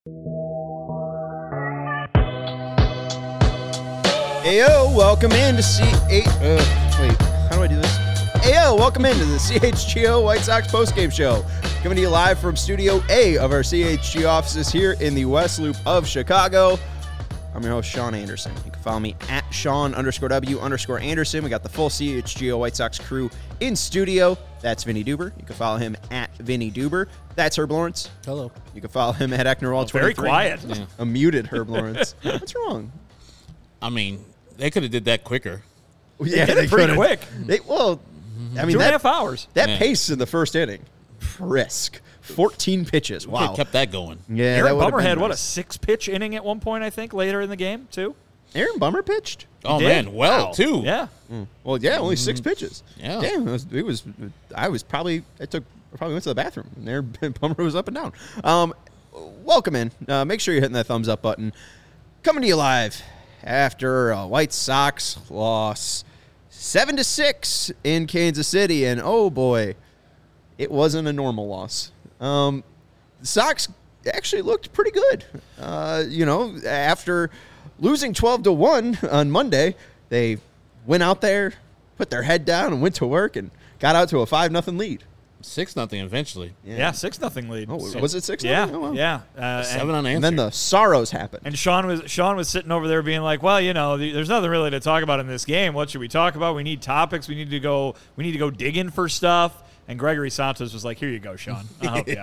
Ayo, welcome in to how do I do this? Ayo, welcome into the CHGO White Sox postgame show. Coming to you live from Studio A of our CHG offices here in the West Loop of Chicago. I'm your host, Sean Anderson. You can follow me at Sean_W_Anderson. We got the full CHGO White Sox crew in studio. That's Vinny Duber. You can follow him at Vinny Duber. That's Herb Lawrence. Hello. You can follow him at Ecknerwall23. Very quiet. Yeah. A muted Herb Lawrence. What's wrong? I mean, they could have did that quicker. Yeah, They did it pretty quick. I mean, 2.5 hours. That Yeah. pace in the first inning, brisk. 14 pitches. Could Wow. have kept that going. Yeah, Aaron that would've Bummer been had, nice. a 6-pitch inning at one point, I think, later in the game, too? Aaron Bummer pitched? Oh, He did. man. Well, Wow. too. Yeah. Well, yeah, only 6 pitches. Yeah. Damn, I probably went to the bathroom. And there, Bummer was up and down. Welcome in. Make sure you're hitting that thumbs up button. Coming to you live after a White Sox loss 7-6 in Kansas City. And oh boy, it wasn't a normal loss. The Sox actually looked pretty good. After losing 12-1 on Monday, they went out there, put their head down, and went to work and got out to a 5-0 lead. 6-0 eventually. Yeah, 6-0 lead. Oh, was it 6-0? Yeah, Oh, wow. yeah. 7 unanswered. And then the sorrows happened. And Sean was sitting over there being like, well, there's nothing really to talk about in this game. What should we talk about? We need topics. We need to go digging for stuff. And Gregory Santos was like, here you go, Sean. I'll help you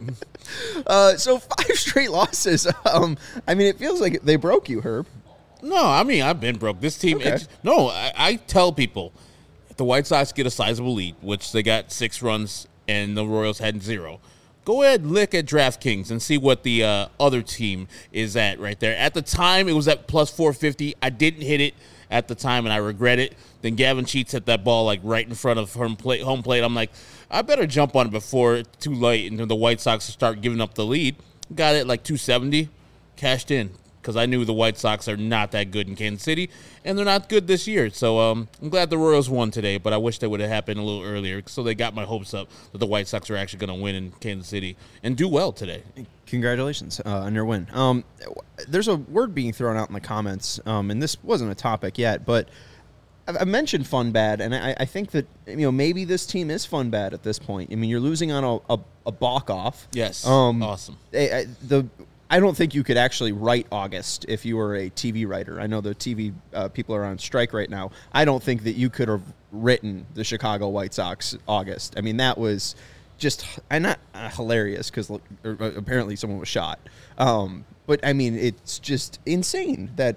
out. So 5 straight losses. It feels like they broke you, Herb. No, I mean, I've been broke. This team, Okay. I tell people, if the White Sox get a sizable lead, which they got 6 runs and the Royals had 0, go ahead and look at DraftKings and see what the other team is at right there. At the time, it was at plus 450. I didn't hit it at the time, and I regret it. Then Gavin Sheets hit that ball like right in front of home plate. I'm like, I better jump on it before it's too late and the White Sox start giving up the lead. Got it like 270, cashed in because I knew the White Sox are not that good in Kansas City, and they're not good this year. So I'm glad the Royals won today, but I wish that would have happened a little earlier so they got my hopes up that the White Sox are actually going to win in Kansas City and do well today. Congratulations on your win. There's a word being thrown out in the comments, and this wasn't a topic yet, but I mentioned fun bad, and I think that maybe this team is fun bad at this point. I mean, you're losing on a balk off. Yes, awesome. awesome. I don't think you could actually write August if you were a TV writer. I know the TV people are on strike right now. I don't think that you could have written the Chicago White Sox August. I mean, that was just not hilarious because apparently someone was shot. But I mean, it's just insane that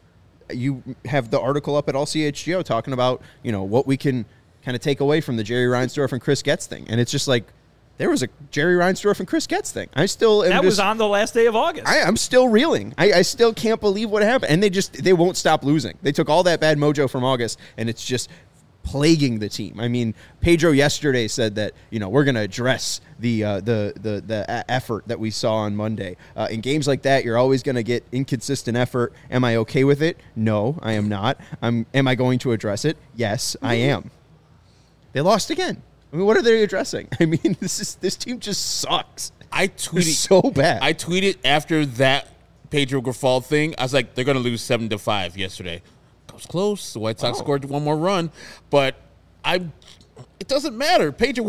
you have the article up at All CHGO talking about what we can kind of take away from the Jerry Reinsdorf and Chris Getz thing, and it's just like there was a Jerry Reinsdorf and Chris Getz thing. I still am. That was on the last day of August. I'm still reeling. I still can't believe what happened, and they won't stop losing. They took all that bad mojo from August, and it's just plaguing the team. I mean, Pedro yesterday said that we're going to address the effort that we saw on Monday. In games like that, you're always going to get inconsistent effort. Am I okay with it? No, I am not. Am I going to address it? Yes, I am. They lost again. I mean, what are they addressing? I mean, this team just sucks. I It's tweeted so bad. I tweeted after that Pedro Grifol thing. I was like, they're going to lose 7-5 yesterday. It was close. The White Sox scored one more run, but it doesn't matter. Pedro,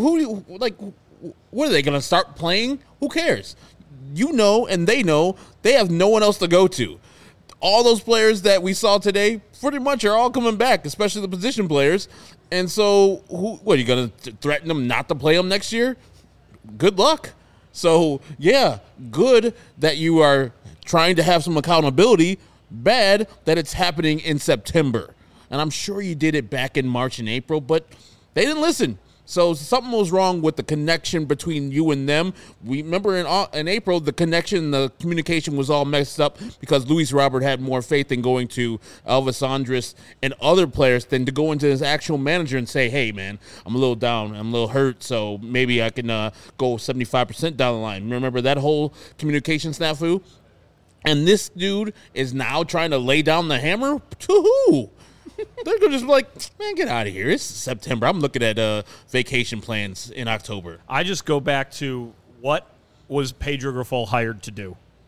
what are they going to start playing? Who cares? And they know they have no one else to go to. All those players that we saw today pretty much are all coming back, especially the position players. And so, what are you going to threaten them not to play them next year? Good luck. So, yeah, good that you are trying to have some accountability. Bad that it's happening in September. And I'm sure you did it back in March and April, but they didn't listen. So something was wrong with the connection between you and them. We remember in April, the connection, the communication was all messed up because Luis Robert had more faith in going to Elvis Andrus and other players than to go into his actual manager and say, hey, man, I'm a little down. I'm a little hurt, so maybe I can go 75% down the line. Remember that whole communication snafu? And this dude is now trying to lay down the hammer? To who? They're going to just be like, man, get out of here. It's September. I'm looking at vacation plans in October. I just go back to what was Pedro Grifol hired to do?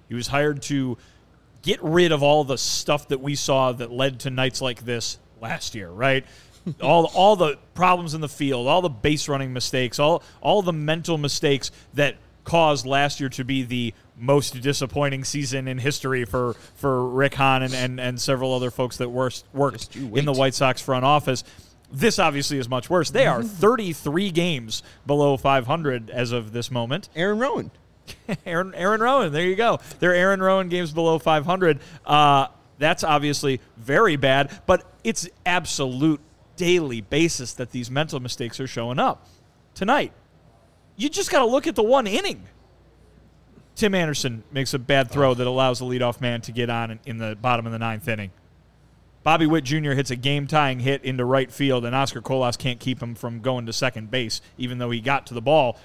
He was hired to get rid of all the stuff that we saw that led to nights like this last year, right? all the problems in the field, all the base running mistakes, all the mental mistakes that caused last year to be the most disappointing season in history for Rick Hahn and several other folks that worked in the White Sox front office. This obviously is much worse. They are 33 games below 500 as of this moment. Aaron Rowan. Aaron Rowan, there you go. They're Aaron Rowan games below 500. That's obviously very bad, but it's absolute daily basis that these mental mistakes are showing up. Tonight, you just got to look at the one inning. Tim Anderson makes a bad throw that allows the leadoff man to get on in the bottom of the ninth inning. Bobby Witt Jr. hits a game-tying hit into right field, and Oscar Colas can't keep him from going to second base, even though he got to the ball.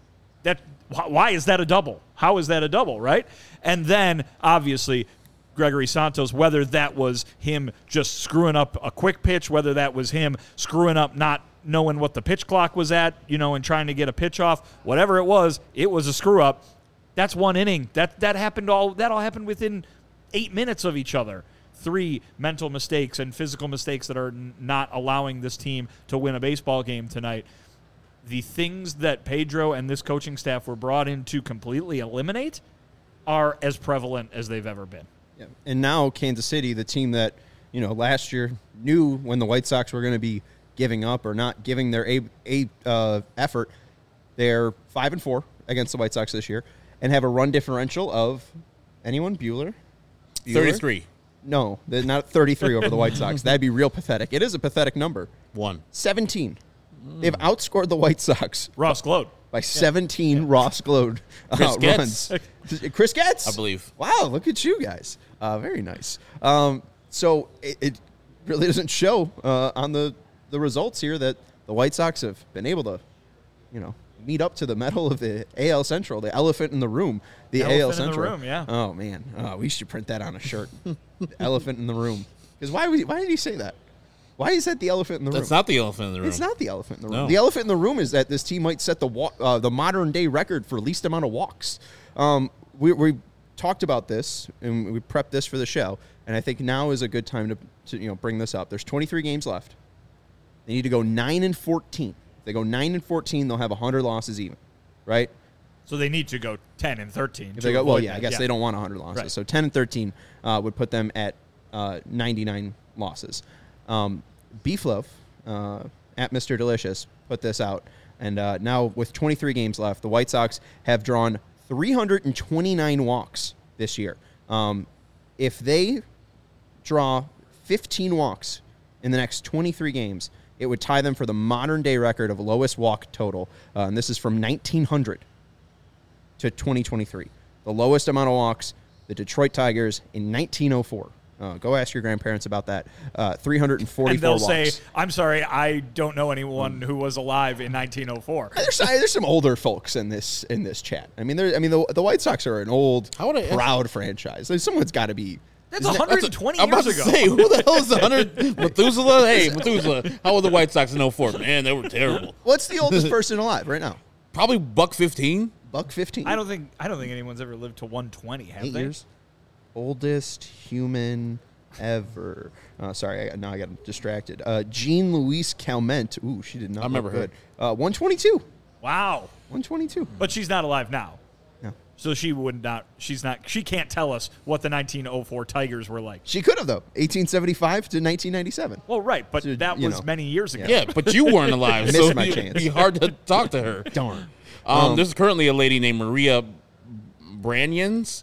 Why is that a double? How is that a double, right? And then, obviously, Gregory Santos, whether that was him just screwing up a quick pitch, whether that was him screwing up not knowing what the pitch clock was at, and trying to get a pitch off, whatever it was a screw-up. That's one inning. That all happened within 8 minutes of each other. 3 mental mistakes and physical mistakes that are not allowing this team to win a baseball game tonight. The things that Pedro and this coaching staff were brought in to completely eliminate are as prevalent as they've ever been. Yeah. And now Kansas City, the team that, last year knew when the White Sox were going to be giving up or not giving their effort, they're 5-4 against the White Sox this year and have a run differential of anyone? Bueller? 33. No, they're not 33 over the White Sox. That'd be real pathetic. It is a pathetic number. 17. They've outscored the White Sox. Ross Glode. By 17 Ross Glode runs. Chris Getz? I believe. Wow, look at you guys. Very nice. So it really doesn't show on the results here that the White Sox have been able to, meet up to the mettle of the AL Central, the elephant in the room. The AL Central. In the room, yeah. Oh, man. We should print that on a shirt. The elephant in the room. Because why did he say that? Why is that the elephant in the room? That's not the elephant in the room. It's not the elephant in the room. No. The elephant in the room is that this team might set the modern-day record for least amount of walks. We talked about this, and we prepped this for the show, and I think now is a good time to bring this up. There's 23 games left. They need to go 9-14. If they go 9-14, they'll have 100 losses even, right? So they need to go 10-13. If they go, I guess they don't want 100 losses. Right. So 10-13 would put them at 99 losses. Beef Loaf at Mr. Delicious put this out, and now with 23 games left, the White Sox have drawn 329 walks this year. If they draw 15 walks in the next 23 games, it would tie them for the modern-day record of lowest walk total, and this is from 1900 to 2023. The lowest amount of walks, the Detroit Tigers in 1904. Go ask your grandparents about that. 344 and they'll walks. say, I'm sorry, I don't know anyone who was alive in 1904. There's some older folks in this chat. The White Sox are an old, proud franchise. Someone's got to be. That's 120 I'm about years to ago. say, who the hell is the 100? Methuselah? Hey, Methuselah. How were the White Sox in 04? Man, they were terrible. What's the oldest person alive right now? Probably $1.15. $1.15. I don't think anyone's ever lived to 120, have 8 they? years. Oldest human ever. Sorry, now I got distracted. Jean Louise Calment. Ooh, she did not. I remember look good. 122. Wow. 122. But she's not alive now. No. So she can't tell us what the 1904 Tigers were like. She could have, though. 1875 to 1997. Well, right, but So, that was many years ago. Yeah, but you weren't alive, Missed so my it'd chance. be hard to talk to her. Darn. There's currently a lady named Maria Branyans,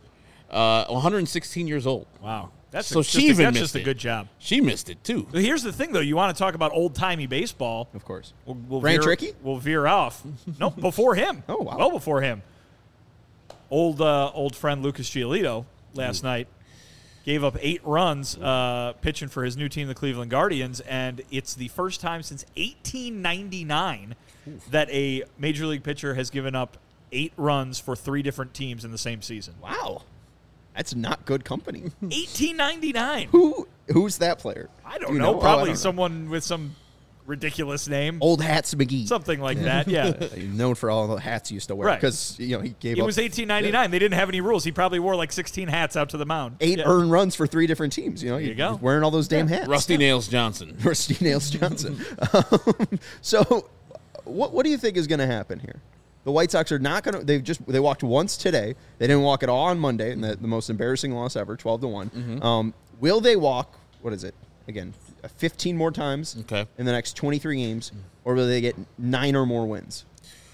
116 years old. Wow. That's just a good job. She missed it, too. But here's the thing, though. You want to talk about old-timey baseball. Of course. We'll Brian veer, Trickey? We'll veer off. Nope, before him. Oh, wow. Well before him. Old friend Lucas Giolito last night gave up 8 runs pitching for his new team, the Cleveland Guardians, and it's the first time since 1899 that a major league pitcher has given up 8 runs for 3 different teams in the same season. Wow. That's not good company. 1899. Who's that player? I don't You know. know? Probably I don't know. someone with some ridiculous name. Old Hats McGee. Something like that, yeah. He's known for all the hats he used to wear. Right. Because, he gave It up was 1899. They didn't have any rules. He probably wore like 16 hats out to the mound. 8 earned runs for 3 different teams. you go. He's wearing all those damn hats. Rusty Nails Johnson. Rusty Nails Johnson. So, what do you think is going to happen here? The White Sox are not going to. They walked once today. They didn't walk at all on Monday, and the most embarrassing loss ever, 12-1. Will they walk? What is it again? 15 more times in the next 23 games, or will they get 9 or more wins?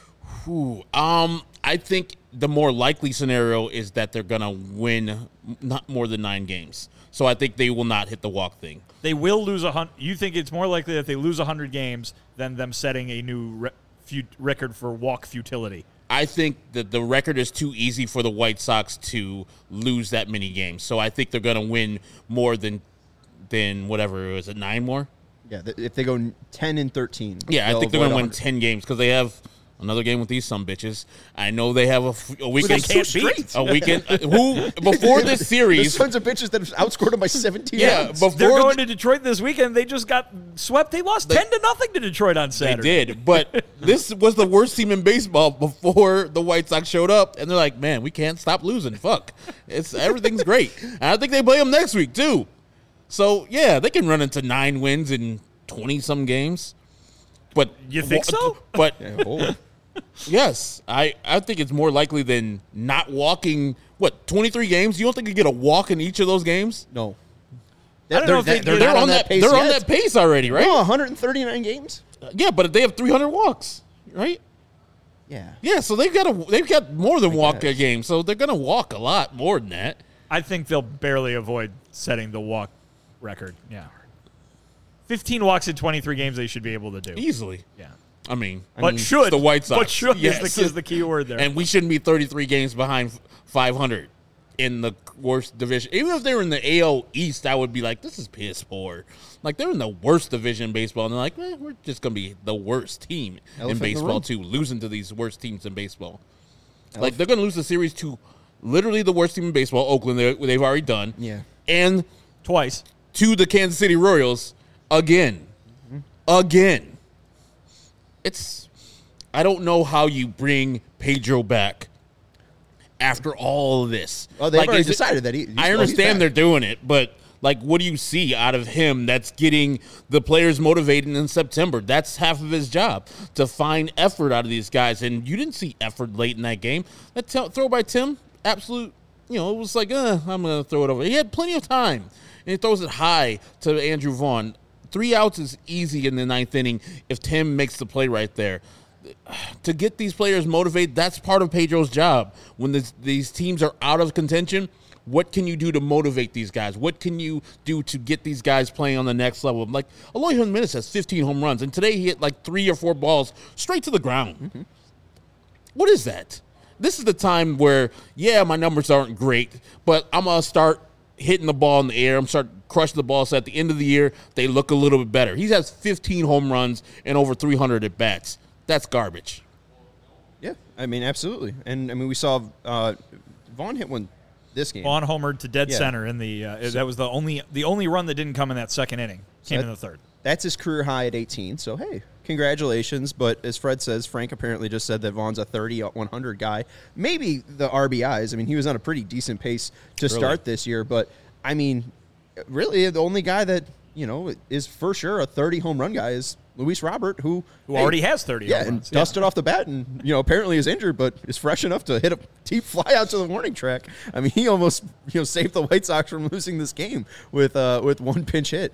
I think the more likely scenario is that they're going to win not more than 9 games. So I think they will not hit the walk thing. They will lose 100. You think it's more likely that they lose 100 games than them setting a new record for walk futility? I think that the record is too easy for the White Sox to lose that many games. So I think they're going to win more than whatever, is it 9 more? Yeah, if they go 10 and 13. Yeah, I think they're going to win 10 games because they have another game with these sumbitches. I know they have a weekend. A weekend. Who before this series? There's tons of bitches that have outscored them by 17. Yeah, runs. before they're going to Detroit this weekend. They just got swept. They lost 10-0 to Detroit on Saturday. They did, but this was the worst team in baseball before the White Sox showed up, and they're like, "Man, we can't stop losing. Fuck, everything's great." And I think they play them next week too. So yeah, they can run into 9 wins in 20-some games. But you think so? But. Yes, I think it's more likely than not walking. 23 games? You don't think you get a walk in each of those games? No. I don't know if they're on that pace. They're on that pace already, right? No, 139 games. Yeah, but they have 300 walks, right? Yeah. Yeah, so they've got more than walk a game, so they're gonna walk a lot more than that. I think they'll barely avoid setting the walk record. Yeah. 15 walks in 23 games they should be able to do. Easily. Yeah. I mean, should the White Sox. But should yes. is the key word there. And we shouldn't be 33 games behind 500 in the worst division. Even if they were in the AL East, I would be like, this is piss poor. Like, they're in the worst division in baseball, and they're like, we're just going to be the worst team in baseball, too, losing to these worst teams in baseball. Like, they're going to lose the series to literally the worst team in baseball, Oakland, they've already done. Yeah. And twice. To the Kansas City Royals again. Again. I don't know how you bring Pedro back after all of this. Oh, they've already decided that I understand they're doing it, but what do you see out of him that's getting the players motivated in September? That's half of his job, to find effort out of these guys. And you didn't see effort late in that game. That throw by Tim, absolute, it was like, I'm going to throw it over. He had plenty of time, and he throws it high to Andrew Vaughn. 3 outs is easy in the 9th inning if Tim makes the play right there. To get these players motivated, that's part of Pedro's job. When these teams are out of contention, what can you do to motivate these guys? What can you do to get these guys playing on the next level? Like, Eloy Jimenez has 15 home runs, and today he hit 3 or 4 balls straight to the ground. Mm-hmm. What is that? This is the time where, my numbers aren't great, but I'm going to start hitting the ball in the air. I'm start crushing the ball. So at the end of the year, they look a little bit better. He has 15 home runs and over 300 at bats. That's garbage. Yeah, I mean, absolutely. And I mean, we saw Vaughn hit one this game. Vaughn homered to dead center in the. That was the only run that didn't come in that 2nd inning. Came in the 3rd. That's his career high at 18. So hey, congratulations. But as Fred says, Frank apparently just said that Vaughn's a 30-100 guy. Maybe the RBIs. I mean, he was on a pretty decent pace to start this year. But I mean, really, the only guy that is for sure a 30 home run guy is Luis Robert, who already has 30 home runs. And dusted off the bat and, apparently is injured, but is fresh enough to hit a deep fly out to the warning track. I mean, he almost, saved the White Sox from losing this game with one pinch hit.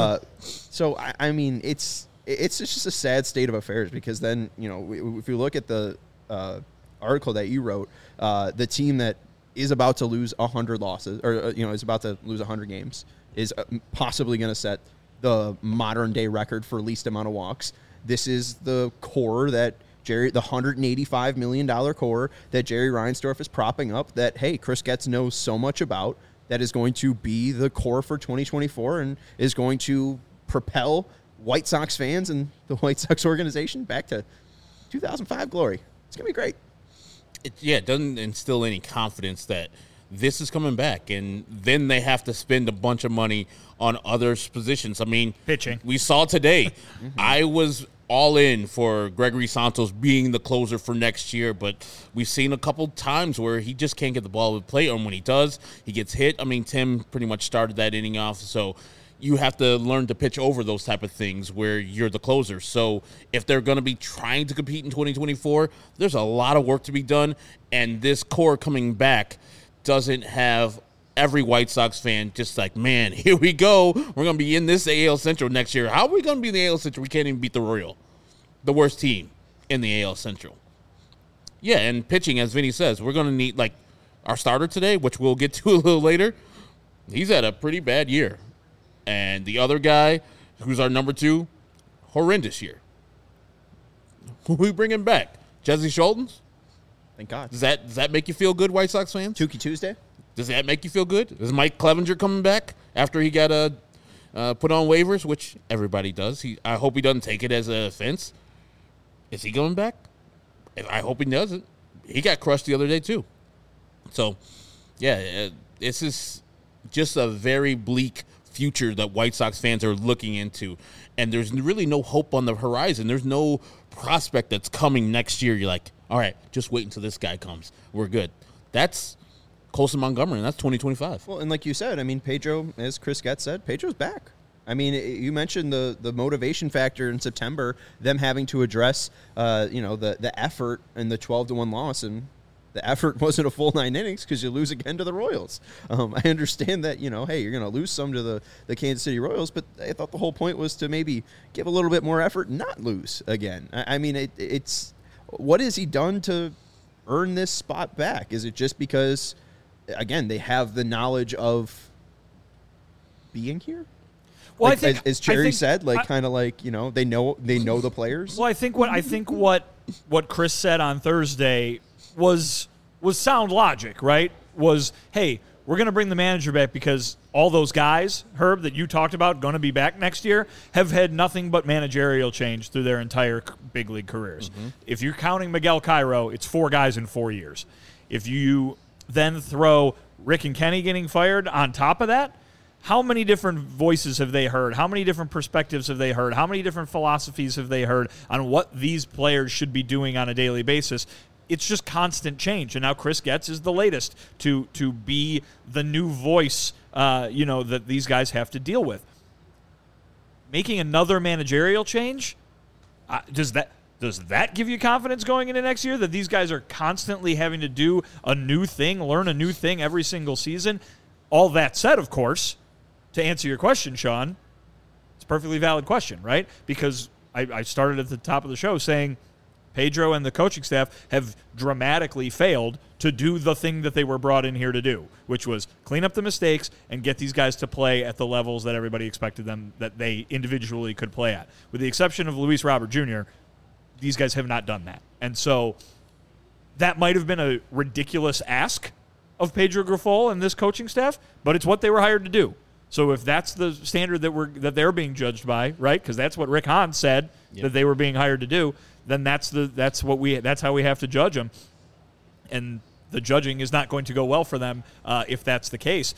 So, I mean, it's just a sad state of affairs because then, if you look at the article that you wrote, the team that is about to lose 100 losses or, is about to lose 100 games is possibly going to set the modern day record for least amount of walks. This is the core that the $185 million core that Jerry Reinsdorf is propping up that, hey, Chris Getz knows so much about that is going to be the core for 2024 and is going to propel White Sox fans and the White Sox organization back to 2005 glory. It's going to be great. It doesn't instill any confidence that this is coming back, and then they have to spend a bunch of money on other positions. I mean, pitching. We saw today. I was all in for Gregory Santos being the closer for next year, but we've seen a couple times where he just can't get the ball to plate, and when he does, he gets hit. I mean, Tim pretty much started that inning off, so you have to learn to pitch over those type of things where you're the closer. So if they're going to be trying to compete in 2024, there's a lot of work to be done, and this core coming back doesn't have every White Sox fan just like, man, here we go. We're going to be in this AL Central next year. How are we going to be in the AL Central? We can't even beat the Royals, the worst team in the AL Central. Yeah, and pitching, as Vinny says, we're going to need, like, our starter today, which we'll get to a little later. He's had a pretty bad year. And the other guy, who's our number 2, horrendous year. Who we bringing back? Jesse Schultz? Thank God. Does that make you feel good, White Sox fans? Tukey Tuesday? Does that make you feel good? Is Mike Clevenger coming back after he got put on waivers, which everybody does? I hope he doesn't take it as an offense. Is he coming back? I hope he doesn't. He got crushed the other day, too. So, yeah, this is just a very bleak future that White Sox fans are looking into. And there's really no hope on the horizon. There's no prospect that's coming next year. You're like, all right, just wait until this guy comes. We're good. That's Colson Montgomery, and that's 2025. Well, and like you said, I mean, Pedro, as Chris Getz said, Pedro's back. I mean, you mentioned the motivation factor in September, them having to address, the effort in the 12-1 loss, and the effort wasn't a full 9 innings because you lose again to the Royals. I understand that, hey, you're going to lose some to the Kansas City Royals, but I thought the whole point was to maybe give a little bit more effort and not lose again. I mean, it's what has he done to earn this spot back? Is it just because, again, they have the knowledge of being here? Well, like, I think, as Cherry said, like kind of like they know the players. Well, I think what Chris said on Thursday was sound logic, right? Was, hey, we're going to bring the manager back because all those guys, Herb, that you talked about going to be back next year, have had nothing but managerial change through their entire big league careers. Mm-hmm. If you're counting Miguel Cairo, it's 4 guys in 4 years. If you then throw Rick and Kenny getting fired on top of that, how many different voices have they heard? How many different perspectives have they heard? How many different philosophies have they heard on what these players should be doing on a daily basis? It's just constant change, and now Chris Getz is the latest to be the new voice, that these guys have to deal with. Making another managerial change, does that give you confidence going into next year that these guys are constantly having to do a new thing, learn a new thing every single season? All that said, of course, to answer your question, Sean, it's a perfectly valid question, right? Because I started at the top of the show saying Pedro and the coaching staff have dramatically failed to do the thing that they were brought in here to do, which was clean up the mistakes and get these guys to play at the levels that everybody expected them, that they individually could play at. With the exception of Luis Robert Jr., these guys have not done that. And so that might have been a ridiculous ask of Pedro Grifol and this coaching staff, but it's what they were hired to do. So if that's the standard that they're being judged by, right? Because that's what Rick Hahn said that they were being hired to do. Then that's how we have to judge them, and the judging is not going to go well for them if that's the case.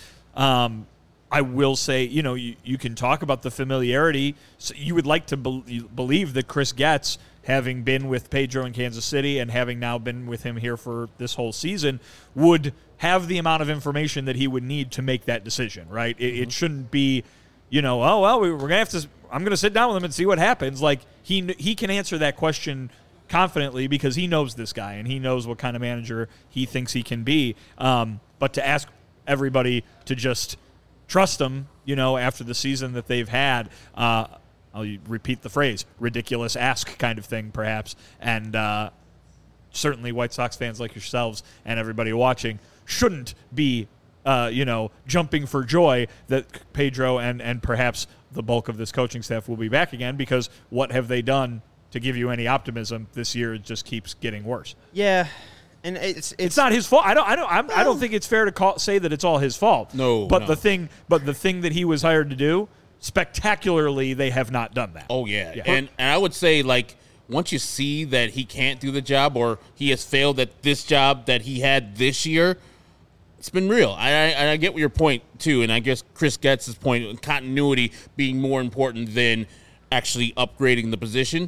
I will say, you can talk about the familiarity. So you would like to believe that Chris Getz, having been with Pedro in Kansas City and having now been with him here for this whole season, would have the amount of information that he would need to make that decision, right? It shouldn't be, we're going to have to – I'm going to sit down with him and see what happens. Like, he can answer that question confidently because he knows this guy and he knows what kind of manager he thinks he can be. But to ask everybody to just trust him, after the season that they've had, I'll repeat the phrase, ridiculous ask kind of thing perhaps. And certainly White Sox fans like yourselves and everybody watching shouldn't be jumping for joy that Pedro and perhaps the bulk of this coaching staff will be back again, because what have they done to give you any optimism this year? It just keeps getting worse. Yeah. And it's not his fault. I don't think it's fair to say that it's all his fault. No. The thing that he was hired to do, spectacularly, they have not done that. Oh yeah. And I would say, like, once you see that he can't do the job or he has failed at this job that he had this year, It's been real. I get your point, too, and I guess Chris gets his point, continuity being more important than actually upgrading the position.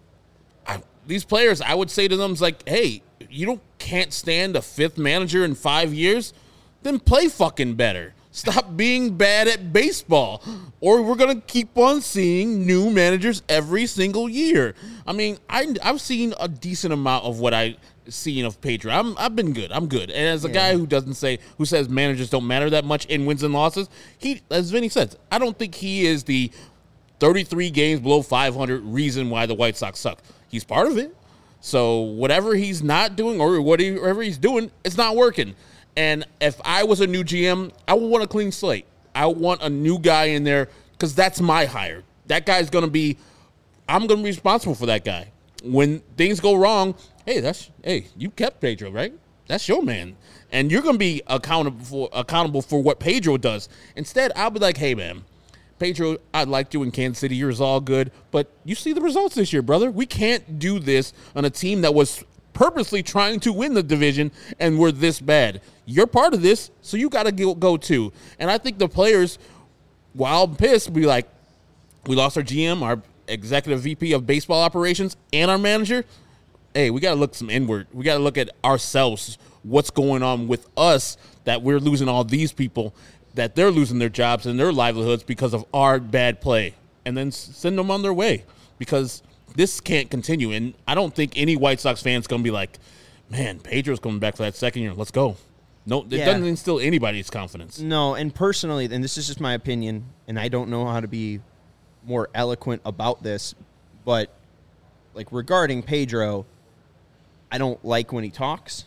These players, I would say to them, is like, hey, you can't stand a fifth manager in 5 years? Then play fucking better. Stop being bad at baseball, or we're going to keep on seeing new managers every single year. I mean, I've seen a decent amount of what I've seen of Pedro. I've been good. I'm good. And as a guy who says managers don't matter that much in wins and losses, as Vinny says, I don't think he is the 33 games below 500 reason why the White Sox suck. He's part of it. So whatever he's not doing or whatever he's doing, it's not working. And if I was a new GM, I would want a clean slate. I want a new guy in there because that's my hire. That guy's going to be – I'm going to be responsible for that guy. When things go wrong, hey, you kept Pedro, right? That's your man. And you're going to be accountable for what Pedro does. Instead, I'll be like, hey, man, Pedro, I liked you in Kansas City. Yours all good. But you see the results this year, brother. We can't do this on a team that was – purposely trying to win the division, and we're this bad. You're part of this, so you got to go too. And I think the players, while pissed, be like, we lost our GM, our executive VP of baseball operations, and our manager. Hey, we got to look some inward. We got to look at ourselves, what's going on with us, that we're losing all these people, that they're losing their jobs and their livelihoods because of our bad play, and then send them on their way, because this can't continue, and I don't think any White Sox fan's going to be like, man, Pedro's coming back for that second year. Let's go. No, it doesn't instill anybody's confidence. No, and personally, and this is just my opinion, and I don't know how to be more eloquent about this, but like regarding Pedro, I don't like when he talks.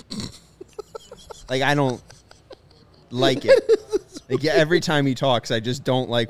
Like, I don't like it. Like, every time he talks, I just don't like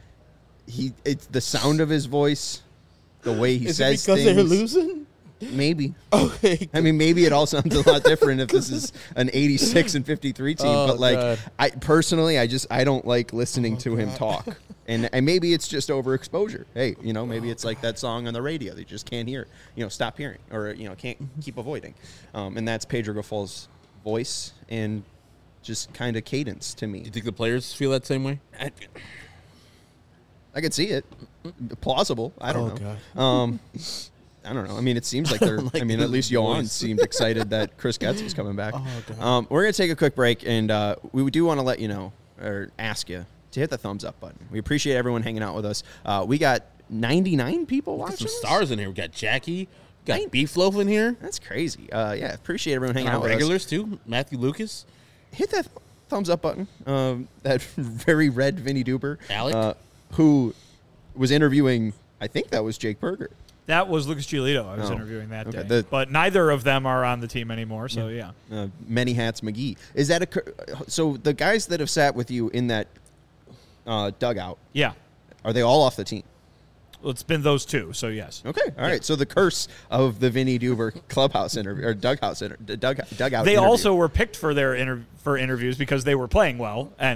it's the sound of his voice. The way he says things. Is it because they're losing? Maybe. Okay. I mean, maybe it all sounds a lot different if this is an 86 and 53 team. But like, God. I don't like listening to him talk. And maybe it's just overexposure. Hey, maybe it's like that song on the radio that you just can't hear. Stop hearing, or can't keep avoiding. And that's Pedro Grifol's voice and just kind of cadence to me. Do you think the players feel that same way? I could see it. Plausible. I don't know. God. I don't know. I mean, it seems like they're. I mean, at least Yohan seemed excited that Chris Getz was coming back. God. We're gonna take a quick break, and we do want to let you know or ask you to hit the thumbs up button. We appreciate everyone hanging out with us. We got 99 people watching. Some stars in here. We got Jackie. We got Beef Loaf in here. That's crazy. Yeah, appreciate everyone hanging out with us. Regulars too. Matthew Lucas. Hit that thumbs up button. That very red Vinny Duber. Alec. Who was interviewing, I think that was Jake Berger. That was Lucas Giolito I was interviewing that day. But neither of them are on the team anymore, so yeah. Many Hats McGee. Is that so the guys that have sat with you in that dugout, are they all off the team? Well, it's been those two, so yes. Okay, all right. So the curse of the Vinny Duber clubhouse interview or dugout. They also were picked for their interviews because they were playing well, and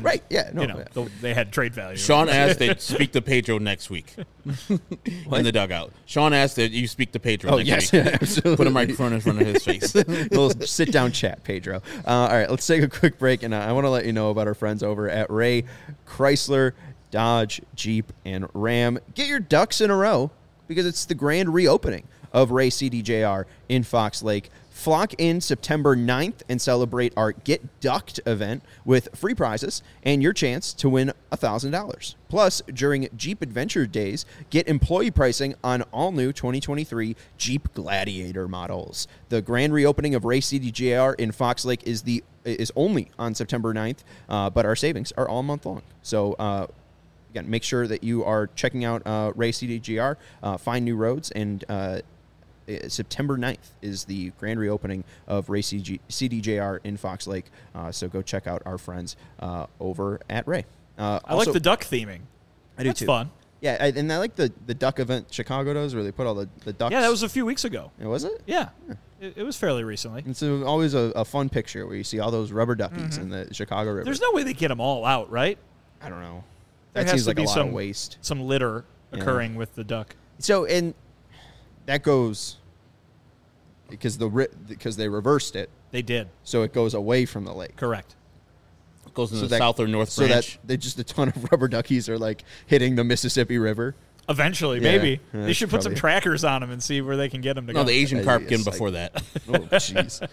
they had trade value. Sean asked that speak to Pedro next week in the dugout. Sean asked that you speak to Pedro next week. Yeah, absolutely. Put a microphone in front of his face. Little sit down chat, Pedro. All right, let's take a quick break, and I want to let you know about our friends over at Ray Chrysler, Dodge, Jeep, and Ram. Get your ducks in a row because it's the grand reopening of Ray CDJR in Fox Lake. Flock in September 9th and celebrate our Get Ducked event with free prizes and your chance to win $1,000. Plus, during Jeep Adventure Days, get employee pricing on all new 2023 Jeep Gladiator models. The grand reopening of Ray CDJR in Fox Lake is only on September 9th, but our savings are all month long. So, again, make sure that you are checking out Ray CDGR, Find New Roads, and September 9th is the grand reopening of Ray CDJR in Fox Lake. So go check out our friends over at Ray. I like the duck theming. I do That's too. fun. Yeah, and I like the duck event Chicago does where they put all the ducks. Yeah, that was a few weeks ago. Was it? Yeah. It was fairly recently. It's always a fun picture where you see all those rubber duckies in the Chicago River. There's no way they get them all out, right? I don't know. There that has seems to like be a lot of waste. Some litter occurring with the duck. So, and that goes because they reversed it. They did. So it goes away from the lake. Correct. Goes in So the south or north so branch. that they just a ton of rubber duckies are like hitting the Mississippi River. Eventually, Yeah, maybe. They that's should put some probably- trackers on them and see where they can get them to No, go. the Asian Yeah, carp yeah, came it's before that. Oh, jeez.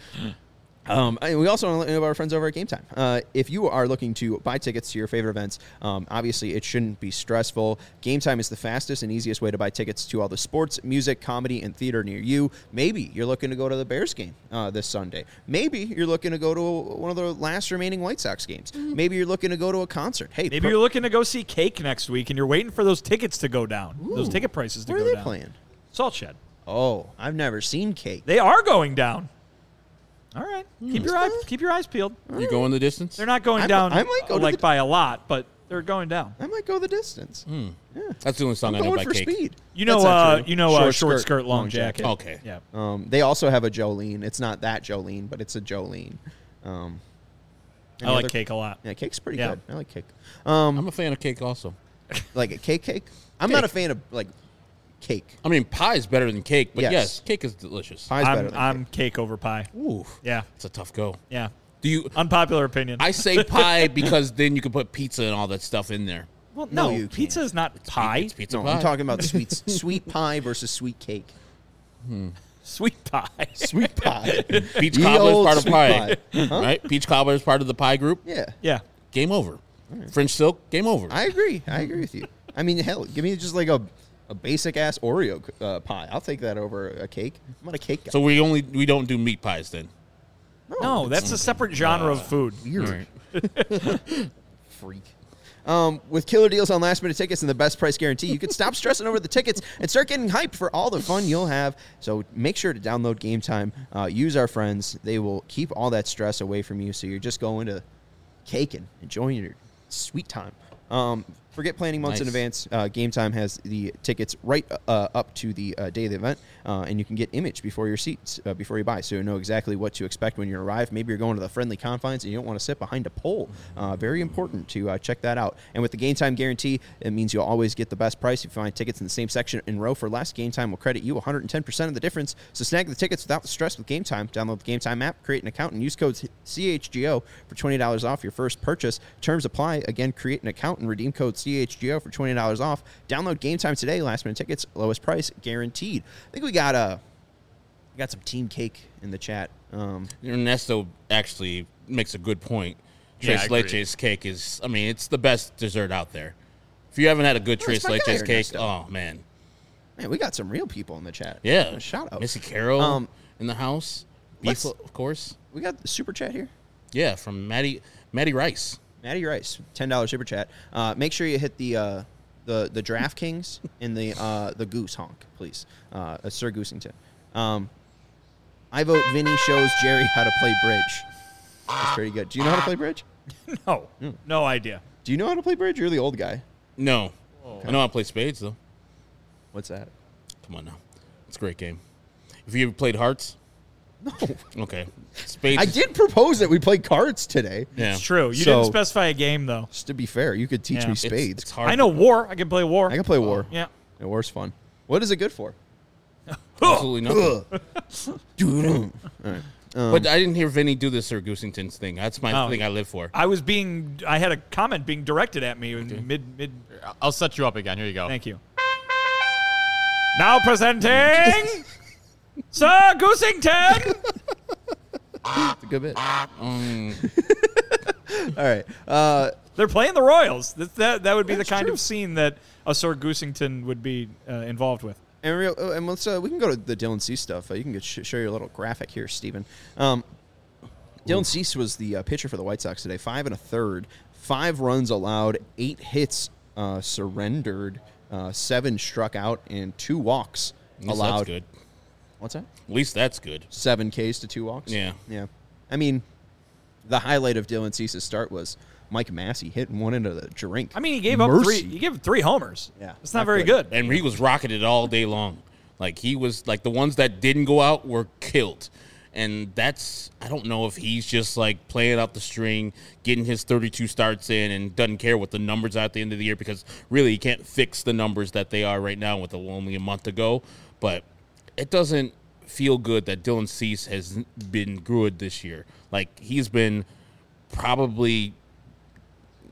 We also want to let you know about our friends over at Game Time. If you are looking to buy tickets to your favorite events, obviously it shouldn't be stressful. Game Time is the fastest and easiest way to buy tickets to all the sports, music, comedy, and theater near you. Maybe you're looking to go to the Bears game this Sunday. Maybe you're looking to go to one of the last remaining White Sox games. Maybe you're looking to go to a concert. Hey, Maybe you're looking to go see Cake next week and you're waiting for those tickets to go down. Those ticket prices to where go are they down. playing? Salt Shed. Oh, I've never seen Cake. They are going down. All right. Keep your eyes peeled. You going the distance? They're not going I down might go to like the- by a lot, but they're going down. I might go the distance. That's the only song I'm I know going by for Cake. speed. You That's know, not true. short skirt, long jacket. Okay. Yeah. They also have a Jolene. It's not that Jolene, but it's a Jolene. I any like other- Cake a lot. Yeah, Cake's pretty Yeah. good. I like Cake. I'm a fan of Cake also. Like a cake. I'm not a fan of like cake. I mean, pie is better than cake, but Yes. yes, cake is delicious. Pie's better than I'm Cake over pie. Ooh, Yeah. it's a tough go. Yeah. Do you? Unpopular opinion. I say pie because then you can put pizza and all that stuff in there. well, No, no, you pizza can't. is not pie. It's pizza No, pie. I'm talking about sweet pie versus sweet cake. Sweet pie. Sweet pie. Peach Ye cobbler is old part of sweet pie, Huh? right? Peach cobbler is part of the pie group. Yeah, Yeah. Game over. French silk. Game over. I agree. I agree with you. I mean, hell, give me just like a basic ass Oreo pie. I'll take that over a cake. I'm not a cake guy. So we don't do meat pies then. No, that's a separate genre of food. Weird. Freak. With killer deals on last minute tickets and the best price guarantee, you can stop stressing over the tickets and start getting hyped for all the fun you'll have. So make sure to download Game Time. Use our friends. They will keep all that stress away from you. So you're just going to cake and enjoying your sweet time. Forget planning months in Nice. advance. Game Time has the tickets right up to the day of the event, and you can get image before your seats before you buy, so you know exactly what to expect when you arrive. Maybe you're going to the friendly confines and you don't want to sit behind a pole. Very important to check that out. And with the Game Time guarantee, it means you'll always get the best price. If you find tickets in the same section in row for less, Game Time will credit you 110% of the difference. So snag the tickets without the stress with Game Time. Download the Game Time app, create an account, and use code CHGO for $20 off your first purchase. Terms apply. Again, create an account and redeem code CHGO for $20 off. Download Game Time today. Last minute tickets, lowest price guaranteed. I think we got some team cake in the chat. Ernesto actually makes a good point. Yeah, I Tres agree. leches cake is, I mean, it's the best dessert out there. If you haven't had a good That's Tres my guy, leches cake, Ernesto. oh man, Man, we got some real people in the chat. yeah. Shout out. Missy Carroll in the house. Beef, let's- of course. We got the super chat here. Yeah, from Maddie Rice. Maddie Rice, $10 super chat. Make sure you hit the DraftKings and the Goose honk, please. Sir Goosington. I vote Vinny shows Jerry how to play bridge. That's pretty good. Do you know how to play bridge? No. No idea. Do you know how to play bridge? You're the old guy. No, I know how to play spades though. What's that? Come on now, it's a great game. Have you ever played Hearts? No. Okay, spades. I did propose that we play cards today. Yeah, It's true. You So- didn't specify a game, though. Just to be fair, you could teach Yeah. me It's- spades. It's hard. I know war. I can play war. I can play war. Yeah. Yeah, war's fun. What is it good for? Absolutely nothing. All right. But I didn't hear Vinny do the Sir Goosington's thing. That's my Oh. thing I live for. I had a comment being directed at me in mid. I'll set you up again. Here you go. Thank you. Now presenting Sir Goosington. It's a good bit. All right. They're playing the Royals. That would be the kind of scene that a Sir Goosington would be involved with. And let's we can go to the Dylan Cease stuff. You can show your little graphic here, Steven. Dylan Cease was the pitcher for the White Sox today. 5 1/3, 5 runs allowed, 8 hits surrendered, 7 struck out, and 2 walks At least allowed. That's good. What's that? At least that's good. 7 Ks to 2 walks. Yeah. Yeah. I mean, the highlight of Dylan Cease's start was Mike Massey hitting one into the drink. I mean, he gave up Mercy. three. He gave up 3 homers. Yeah, it's not not very good. good. And he was rocking it all day long. Like he was like the ones that didn't go out were killed. And that's I don't know if he's just like playing out the string, getting his 32 starts in and doesn't care what the numbers are at the end of the year because really he can't fix the numbers that they are right now with only a month to go. But it doesn't feel good that Dylan Cease has been good this year. Like he's been probably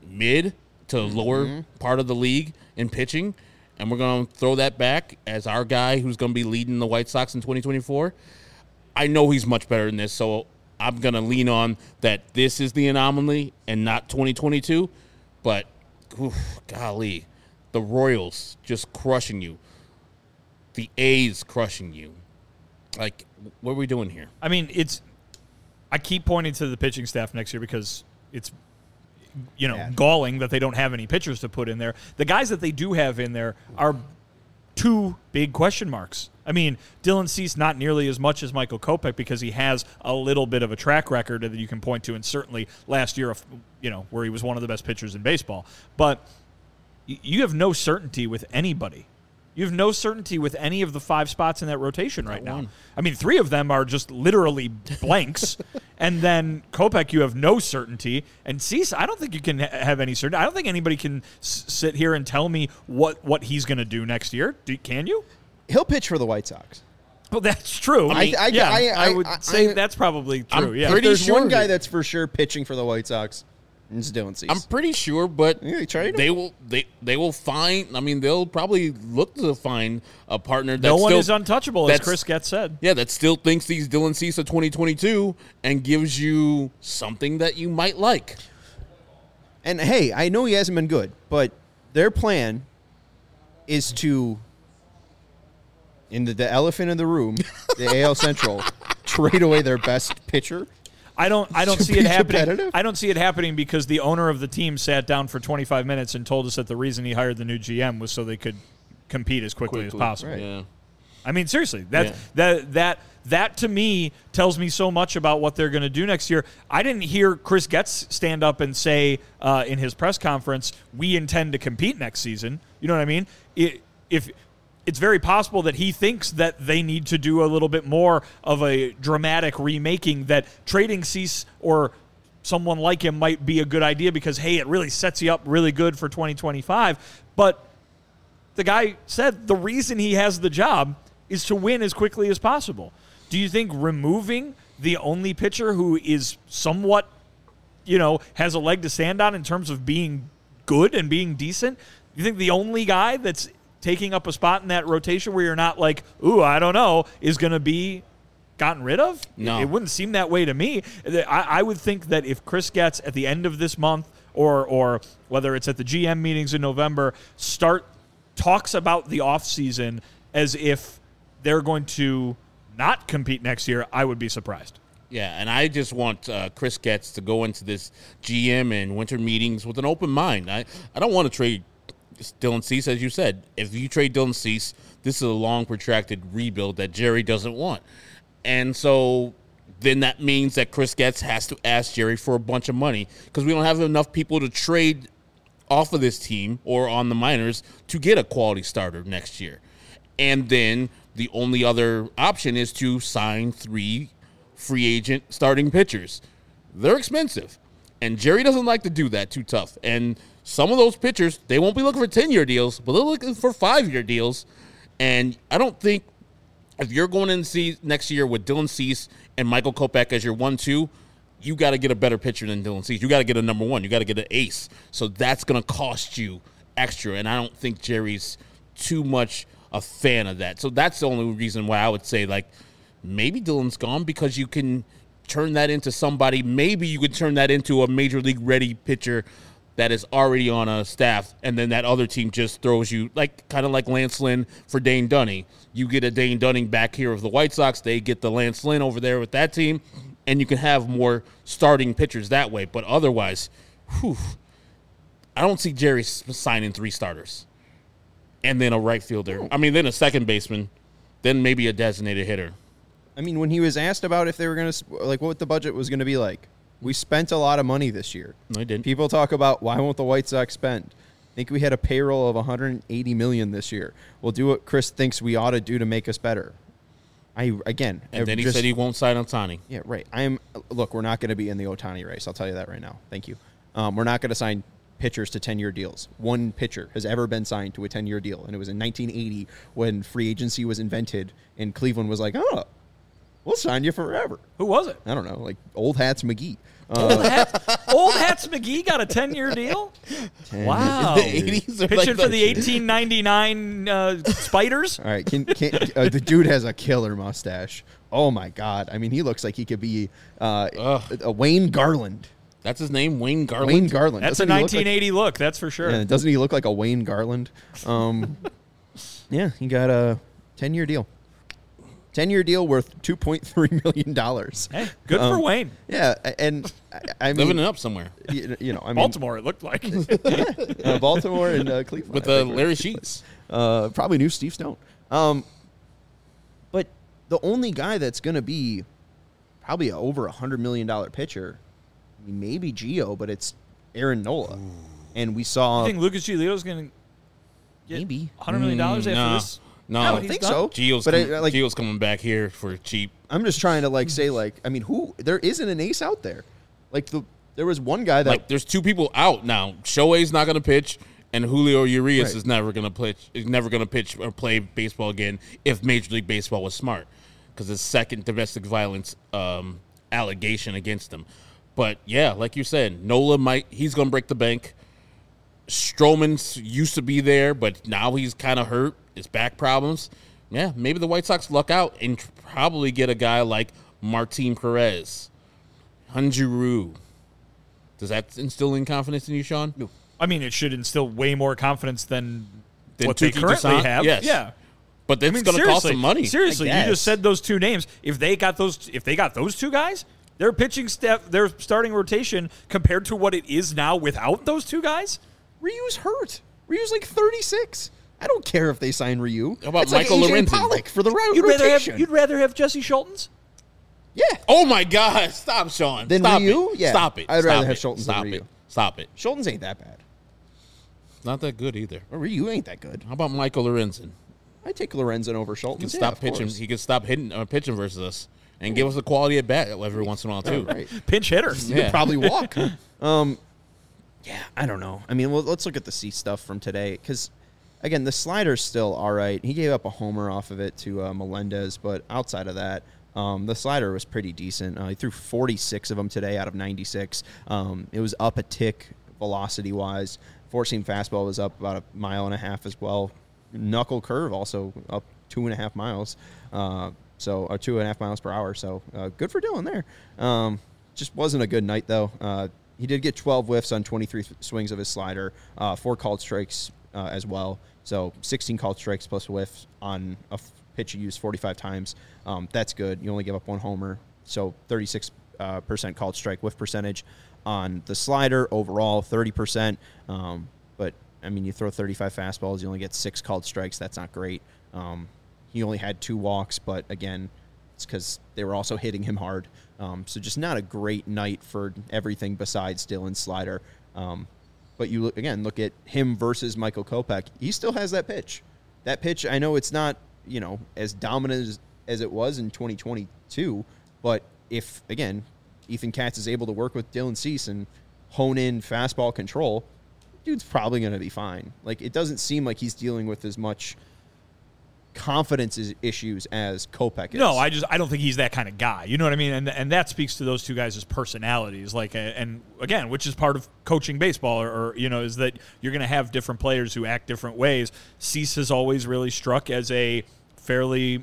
mid to lower part of the league in pitching, and we're going to throw that back as our guy who's going to be leading the White Sox in 2024. I know he's much better than this, so I'm going to lean on that this is the anomaly and not 2022. But, golly, the Royals just crushing you. The A's crushing you. Like, what are we doing here? I mean, I keep pointing to the pitching staff next year because it's, galling that they don't have any pitchers to put in there. The guys that they do have in there are two big question marks. I mean, Dylan Cease not nearly as much as Michael Kopech because he has a little bit of a track record that you can point to, and certainly last year, where he was one of the best pitchers in baseball. But you have no certainty with anybody. You have no certainty with any of the 5 spots in that rotation right now. I mean, 3 of them are just literally blanks. And then Kopech, you have no certainty. And Cease, I don't think you can have any certainty. I don't think anybody can sit here and tell me what he's going to do next year. Can you? He'll pitch for the White Sox. Well, that's true. I would say that's probably true. I'm pretty There's sure one guy that's for sure pitching for the White Sox. It's Dylan Cease. I'm pretty sure, but they will find. I mean, they'll probably look to find a partner. No one is untouchable, as Chris Getz said. Yeah, that still thinks he's Dylan Cease of 2022 and gives you something that you might like. And hey, I know he hasn't been good, but their plan is to, in the elephant in the room, the AL Central, trade away their best pitcher. I don't see it happening. Competitive? I don't see it happening because the owner of the team sat down for 25 minutes and told us that the reason he hired the new GM was so they could compete as quickly as possible. Right. Yeah. I mean, seriously, that to me tells me so much about what they're going to do next year. I didn't hear Chris Getz stand up and say in his press conference, "We intend to compete next season." You know what I mean? It's very possible that he thinks that they need to do a little bit more of a dramatic remaking, that trading Cease or someone like him might be a good idea because, hey, it really sets you up really good for 2025. But the guy said the reason he has the job is to win as quickly as possible. Do you think removing the only pitcher who is somewhat, has a leg to stand on in terms of being good and being decent, do you think the only guy that's taking up a spot in that rotation where you're not like, ooh, I don't know, is going to be gotten rid of? No. It wouldn't seem that way to me. I would think that if Chris Getz at the end of this month or whether it's at the GM meetings in November, talks about the offseason as if they're going to not compete next year, I would be surprised. Yeah, and I just want Chris Getz to go into this GM and winter meetings with an open mind. I don't want to trade Dylan Cease, as you said. If you trade Dylan Cease, this is a long, protracted rebuild that Jerry doesn't want. And so then that means that Chris Getz has to ask Jerry for a bunch of money because we don't have enough people to trade off of this team or on the minors to get a quality starter next year. And then the only other option is to sign 3 free agent starting pitchers. They're expensive. And Jerry doesn't like to do that, too tough. And some of those pitchers, they won't be looking for 10-year deals, but they're looking for 5-year deals. And I don't think if you're going in next year with Dylan Cease and Michael Kopech as your 1-2, you got to get a better pitcher than Dylan Cease. You got to get a number 1. You got to get an ace. So that's going to cost you extra. And I don't think Jerry's too much a fan of that. So that's the only reason why I would say, maybe Dylan's gone because you can turn that into somebody. Maybe you could turn that into a major league ready pitcher that is already on a staff, and then that other team just throws you, kind of like Lance Lynn for Dane Dunning. You get a Dane Dunning back here with the White Sox. They get the Lance Lynn over there with that team, and you can have more starting pitchers that way. But otherwise, I don't see Jerry signing 3 starters and then a right fielder. I mean, then a second baseman, then maybe a designated hitter. I mean, when he was asked about if they were going to, what the budget was going to be like, we spent a lot of money this year. No, I didn't. People talk about why won't the White Sox spend? I think we had a payroll of $180 million this year. We'll do what Chris thinks we ought to do to make us better. And then he said he won't sign Ohtani. Yeah, right. Look, we're not going to be in the Ohtani race. I'll tell you that right now. Thank you. We're not going to sign pitchers to 10-year deals. One pitcher has ever been signed to a 10-year deal, and it was in 1980 when free agency was invented, and Cleveland was like, oh, we'll sign you forever. Who was it? I don't know, like Old Hats McGee. Old Hats McGee got a 10-year deal? Wow. The 80s are Pitching like for the 1899 Spiders? All right, the dude has a killer mustache. Oh my God! I mean, he looks like he could be a Wayne Garland. That's his name, Wayne Garland. Wayne Garland. That's a Doesn't he look 1980 look, that's for sure. Yeah, doesn't he look like a Wayne Garland? Yeah, he got a 10-year deal. 10-year deal worth $2.3 million. Hey, good for Wayne. Yeah, and I mean, Living it up somewhere. You know, I mean, Baltimore, it looked like. Baltimore and Cleveland With I think, Larry Sheets. probably knew Steve Stone. But the only guy that's going to be probably over $100 million pitcher, I mean, maybe Gio, but it's Aaron Nola. And we saw. You think Lucas Giolito's going to get Maybe. $100 million after no. this? No, I don't think so. Gio's coming back here for cheap. I'm just trying to say I mean, there isn't an ace out there. There was one guy that There's two people out now. Shohei's not going to pitch, and Julio Urias is never going to pitch. Is never going to pitch or play baseball again if Major League Baseball was smart, because his second domestic violence allegation against him. But yeah, like you said, Nola he's going to break the bank. Stroman used to be there, but now he's kind of hurt. His back problems. Yeah, maybe the White Sox luck out and probably get a guy like Martin Perez, Hyun-Jin Ryu. Does that instill any confidence in you, Sean? No. I mean, it should instill way more confidence than what Tuki they currently Toussaint? have. Yes. Yeah. But that's going to cost some money. Seriously, you I guess. just said those two names. If they got those two guys, their pitching staff, their starting rotation compared to what it is now without those two guys. Ryu's hurt. Ryu's like 36. I don't care if they sign Ryu. How about it's Michael like AJ Lorenzen? Pollock for the rotation. You'd rather have Jesse Schultens? Yeah. Oh, my God. Stop, Sean. Then Stop Ryu? it. Yeah. Stop it. I'd Stop rather have it. Schultens Stop than it. Ryu. Stop it. Schultens ain't that bad. Not that good either. Or Ryu ain't that good. How about Michael Lorenzen? I take Lorenzen over He Schultens. can stop of pitching. course. He can stop pitching versus us and give us a quality at bat every once in a while, too. Right. Pinch hitters. He could probably walk. Yeah, I don't know. I mean, well, let's look at the C stuff from today because, again, the slider's still all right. He gave up a homer off of it to Melendez, but outside of that, the slider was pretty decent. He threw 46 of them today out of 96. It was up a tick velocity-wise. Four-seam fastball was up about 1.5 miles as well. Knuckle curve also up 2.5 miles, or 2.5 miles per hour. So good for Dylan there. Just wasn't a good night, though. He did get 12 whiffs on 23 swings of his slider, 4 called strikes as well. So 16 called strikes plus whiffs on a pitch you used 45 times. That's good. You only give up 1 homer. So 36% called strike whiff percentage on the slider. Overall, 30%. But, I mean, you throw 35 fastballs, you only get 6 called strikes. That's not great. He only had 2 walks, but, again, it's because they were also hitting him hard. So just not a great night for everything besides Dylan's slider. But you look at him versus Michael Kopech. He still has that pitch. That pitch, I know it's not, as dominant as it was in 2022. But if, again, Ethan Katz is able to work with Dylan Cease and hone in fastball control, dude's probably going to be fine. Like, it doesn't seem like he's dealing with as much confidence issues as Kopech is. No, I don't think he's that kind of guy. You know what I mean? And that speaks to those two guys' personalities. Like, and again, which is part of coaching baseball, or is that you're going to have different players who act different ways. Cease has always really struck as a fairly,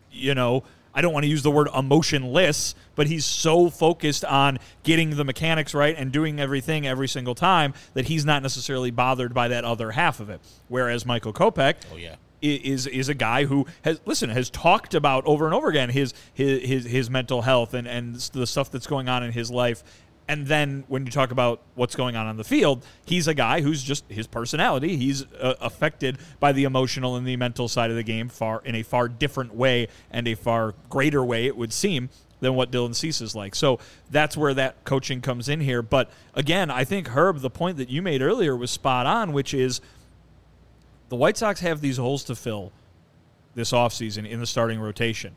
I don't want to use the word emotionless, but he's so focused on getting the mechanics right and doing everything every single time that he's not necessarily bothered by that other half of it. Whereas Michael Kopech, is a guy who has talked about over and over again his mental health and the stuff that's going on in his life. And then when you talk about what's going on the field, he's a guy who's just his personality. He's affected by the emotional and the mental side of the game in a far different way and a far greater way, it would seem, than what Dylan Cease is like. So that's where that coaching comes in here. But again, I think, Herb, the point that you made earlier was spot on, which is the White Sox have these holes to fill this offseason in the starting rotation.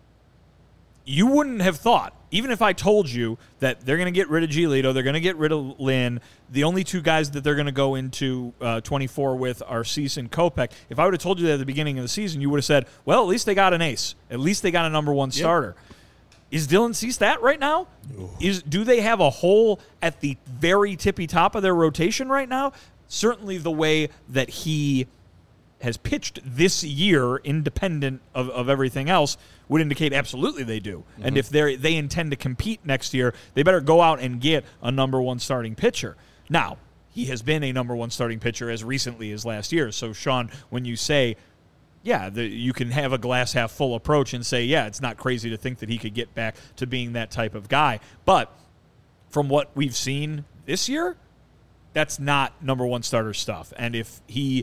You wouldn't have thought, even if I told you that they're going to get rid of Giolito, they're going to get rid of Lynn, the only two guys that they're going to go into 24 with are Cease and Kopech. If I would have told you that at the beginning of the season, you would have said, well, at least they got an ace. At least they got a number 1 starter. Is Dylan Cease that right now? Do they have a hole at the very tippy top of their rotation right now? Certainly the way that he has pitched this year, independent of everything else, would indicate absolutely they do. Mm-hmm. And if they intend to compete next year, they better go out and get a number one starting pitcher. Now, he has been a number one starting pitcher as recently as last year. So, Sean, when you say, you can have a glass half full approach and say, it's not crazy to think that he could get back to being that type of guy. But from what we've seen this year, that's not number one starter stuff. And if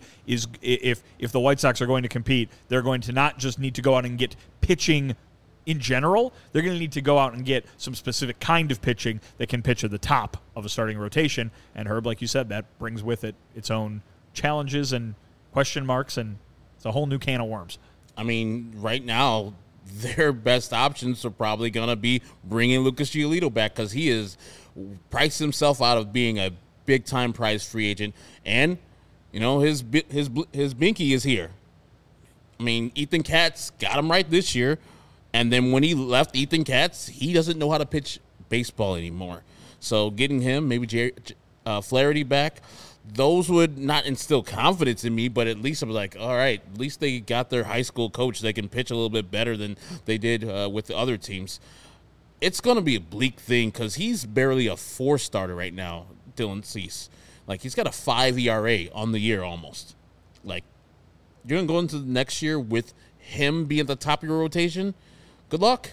the White Sox are going to compete, they're going to not just need to go out and get pitching in general. They're going to need to go out and get some specific kind of pitching that can pitch at the top of a starting rotation. And Herb, like you said, that brings with it its own challenges and question marks, and it's a whole new can of worms. I mean, right now, their best options are probably going to be bringing Lucas Giolito back because he has priced himself out of being a big-time prize free agent. And, his binky is here. I mean, Ethan Katz got him right this year. And then when he left Ethan Katz, he doesn't know how to pitch baseball anymore. So getting him, maybe Flaherty back, those would not instill confidence in me, but at least I'm like, all right, at least they got their high school coach. They can pitch a little bit better than they did with the other teams. It's going to be a bleak thing because he's barely a 4-starter right now, Dylan Cease. Like, he's got a 5 ERA on the year almost. Like, you're going to go into the next year with him being at the top of your rotation? Good luck.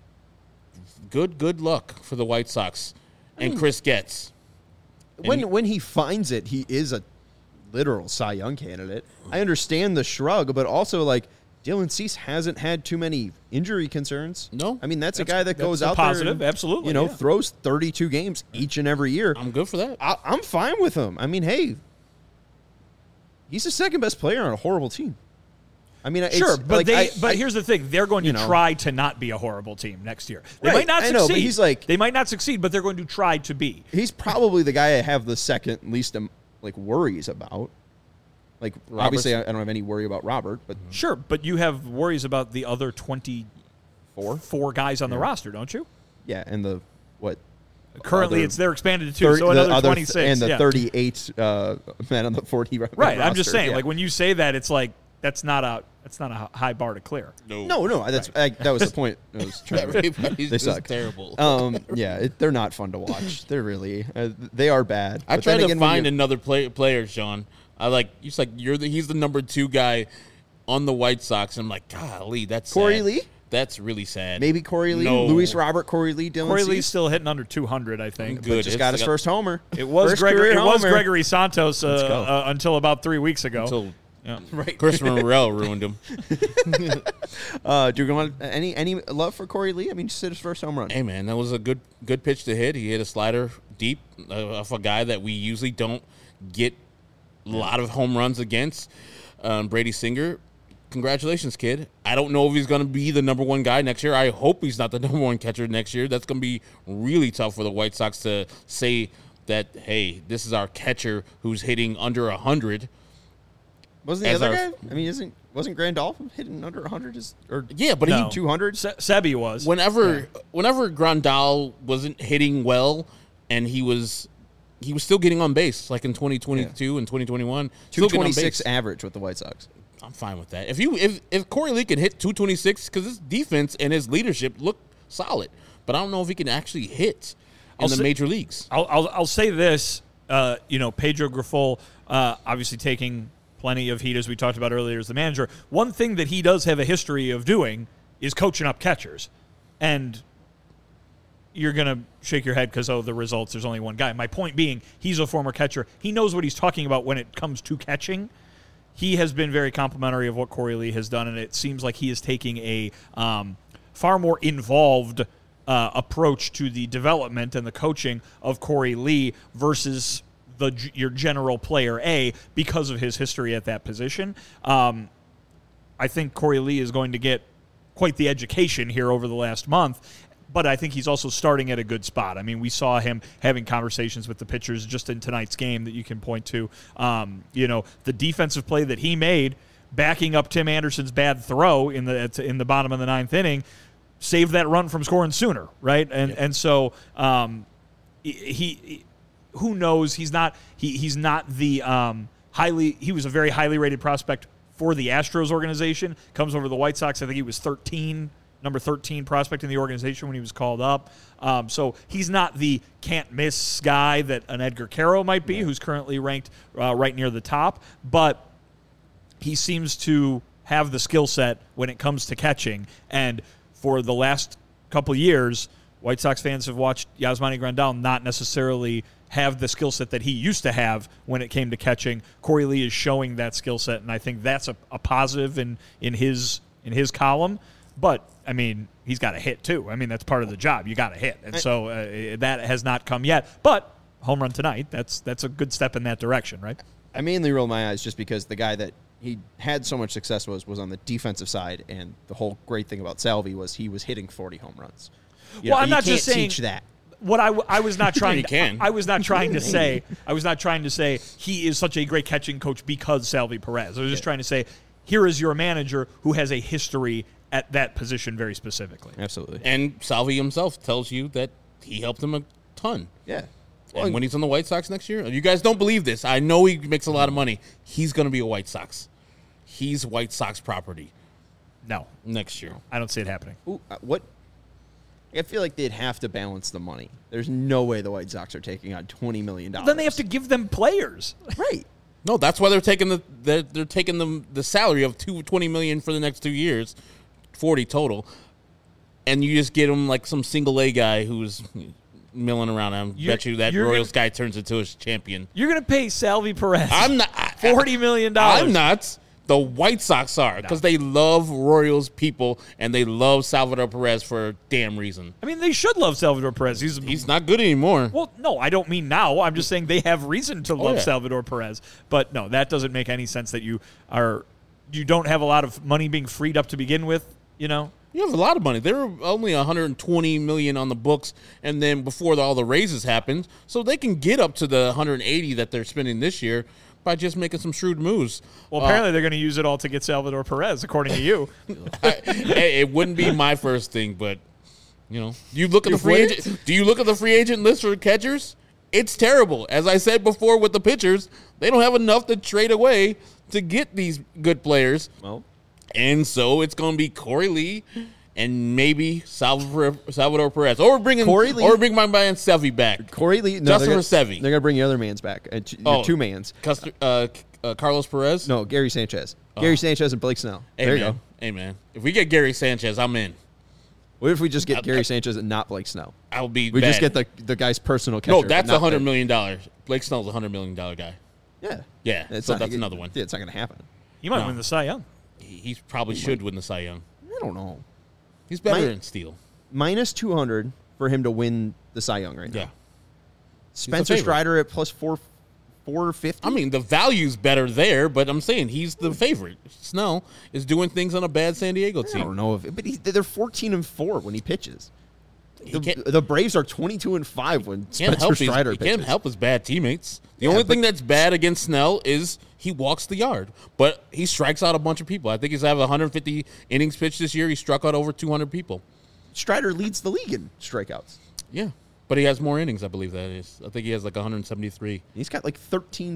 Good luck for the White Sox and Chris Getz. When he finds it, he is a literal Cy Young candidate. I understand the shrug, but also, like, Dylan Cease hasn't had too many injury concerns. No. I mean, that's a guy that goes out positive, there and, absolutely, throws 32 games each and every year. I'm good for that. I'm fine with him. I mean, hey, he's the second best player on a horrible team. I mean, sure, but here's the thing: they're going to try to not be a horrible team next year. They might not succeed. I know, but he's like, they might not succeed, but they're going to try to be. He's probably the guy I have the second least worries about. Like, obviously, I don't have any worry about Robert, but sure, but you have worries about the other 24 guys on the roster, don't you? Yeah, and the what? Currently, they're expanded to 2, so another 26, and the 38 men on the 40. Right, roster, I'm just saying, like when you say that, it's like that's not a high bar to clear. No. That was the point. I was trying they suck. Terrible. They're not fun to watch. They're really they are bad. I tried to find another player, Sean. He's the number 2 guy on the White Sox. And I'm like, golly, that's Corey sad. Lee. That's really sad. Maybe Corey Lee, no. Luis Robert, Corey Lee, Dylan Corey Cease. Lee's still hitting under 200, I think. Good. Just got his first homer. It was Gregory Santos until about 3 weeks ago. Until Christopher Morel ruined him. Do you want any love for Corey Lee? I mean, just hit his first home run. Hey man, that was a good pitch to hit. He hit a slider deep of a guy that we usually don't get a lot of home runs against. Brady Singer. Congratulations, kid. I don't know if he's going to be the number 1 guy next year. I hope he's not the number 1 catcher next year. That's going to be really tough for the White Sox to say that, hey, this is our catcher who's hitting under 100. Wasn't the other guy? I mean, wasn't Grandolph hitting under 100? But he 200. Sebi was. Whenever Grandal wasn't hitting well, and he was still getting on base, like in 2022 and 2021. 226 average with the White Sox. I'm fine with that. If Corey Lee can hit 226, because his defense and his leadership look solid, but I don't know if he can actually hit in the major leagues. I'll say this. Pedro Grifol, obviously taking plenty of heat, as we talked about earlier, as the manager. One thing that he does have a history of doing is coaching up catchers. And you're going to shake your head because, the results, there's only one guy. My point being, he's a former catcher. He knows what he's talking about when it comes to catching. He has been very complimentary of what Corey Lee has done, and it seems like he is taking a far more involved approach to the development and the coaching of Corey Lee versus your general player A because of his history at that position. I think Corey Lee is going to get quite the education here over the last month, but I think he's also starting at a good spot. I mean, we saw him having conversations with the pitchers just in tonight's game that you can point to. The defensive play that he made, backing up Tim Anderson's bad throw in the bottom of the 9th inning, save that run from scoring sooner, right? And so he who knows? He's not the he was a very highly rated prospect for the Astros organization. Comes over to the White Sox. I think he was number 13 prospect in the organization when he was called up. So he's not the can't miss guy that an Edgar Caro might be, who's currently ranked right near the top. But he seems to have the skill set when it comes to catching. And for the last couple years, White Sox fans have watched Yasmani Grandal not necessarily have the skill set that he used to have when it came to catching. Corey Lee is showing that skill set, and I think that's a positive in his column. But, I mean, he's got to hit, too. I mean, that's part of the job. You got to hit. And so that has not come yet. But home run tonight, that's a good step in that direction, right? I mainly roll my eyes just because the guy that he had so much success was on the defensive side, and the whole great thing about Salvi was he was hitting 40 home runs. I'm not just saying teach that. What I was not trying can. I was not trying to say he is such a great catching coach because Salvi Perez. I was just trying to say here is your manager who has a history at that position very specifically. Absolutely. And Salvi himself tells you that he helped him a ton. Yeah. And when he's on the White Sox next year, you guys don't believe this. I know he makes a lot of money. He's going to be a White Sox. He's White Sox property. No. Next year. I don't see it happening. Ooh, what? I feel like they'd have to balance the money. There's no way the White Sox are taking on $20 million. Then they have to give them players. Right. No, that's why they're taking the salary of $20 million for the next 2 years, 40 total, and you just get him like some single A guy who's milling around. I bet you that Royals guy turns into a champion. You're going to pay Salvi Perez. I'm not $40 million. I'm not. The White Sox are because they love Royals people and they love Salvador Perez for a damn reason. I mean, they should love Salvador Perez. He's not good anymore. Well, no, I don't mean now. I'm just saying they have reason to love Salvador Perez. But no, that doesn't make any sense that you don't have a lot of money being freed up to begin with, you know? You have a lot of money. There were only $120 million on the books, and then before all the raises happened, so they can get up to the $180 that they're spending this year by just making some shrewd moves. Well, apparently they're going to use it all to get Salvador Perez, according to you. It wouldn't be my first thing, but you know, you look at the free agent. Do you look at the free agent list for catchers? It's terrible. As I said before with the pitchers, they don't have enough to trade away to get these good players. Well, and so it's going to be Corey Lee and maybe Salvador Perez. Or bring my man Sevy back. Corey Lee, Justin Sevy. They're going to bring your other man's back. Two mans. Carlos Perez? No, Gary Sanchez. Gary Sanchez and Blake Snell. Hey, there man. you go. Hey, man. If we get Gary Sanchez, I'm in. What if we just get Gary Sanchez and not Blake Snell? I'll be We bad. just get the guy's personal catcher. No, that's $100 million. Blake Snell's a $100 million guy. Yeah. Yeah, that's another one. Yeah, it's not going to happen. He might win the Cy Young. He probably should win the Cy Young. I don't know. He's better than Steele. Minus 200 for him to win the Cy Young right now. Yeah. Spencer Strider at plus 450. I mean, the value's better there, but I'm saying he's the favorite. Snell is doing things on a bad San Diego team. I don't know but they're 14-4 when he pitches. The Braves are 22-5 when Spencer Strider pitches. He can't help his bad teammates. The only thing that's bad against Snell is he walks the yard, but he strikes out a bunch of people. I think he's having 150 innings pitched this year. He struck out over 200 people. Strider leads the league in strikeouts. Yeah, but he has more innings, I believe that is. I think he has like 173. He's got like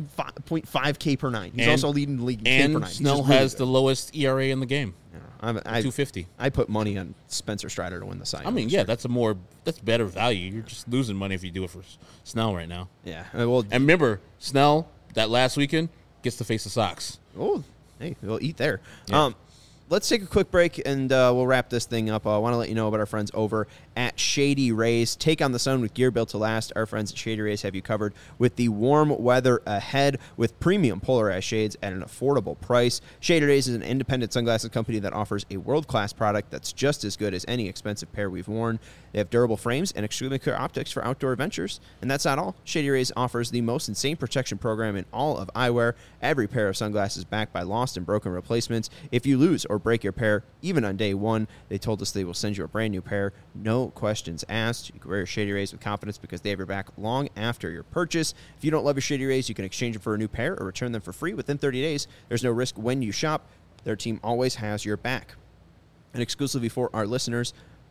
13.5 K per nine. He's also leading the league in K per nine. Snell has the lowest ERA in the game. 250. I put money on Spencer Strider to win the Cy Young. I mean, that's better value. You're just losing money if you do it for Snell right now. Yeah. And remember, Snell that last weekend gets to face the Sox. Oh, hey, we'll eat there. Yeah. Let's take a quick break, and we'll wrap this thing up. I want to let you know about our friends over at Shady Rays. Take on the sun with gear built to last. Our friends at Shady Rays have you covered with the warm weather ahead with premium polarized shades at an affordable price. Shady Rays is an independent sunglasses company that offers a world-class product that's just as good as any expensive pair we've worn. They have durable frames and extremely clear optics for outdoor adventures. And that's not all. Shady Rays offers the most insane protection program in all of eyewear. Every pair of sunglasses backed by lost and broken replacements. If you lose or break your pair, even on day one, they told us they will send you a brand new pair. No questions asked. You can wear your Shady Rays with confidence because they have your back long after your purchase. If you don't love your Shady Rays, you can exchange them for a new pair or return them for free within 30 days. There's no risk when you shop. Their team always has your back. And exclusively for our listeners,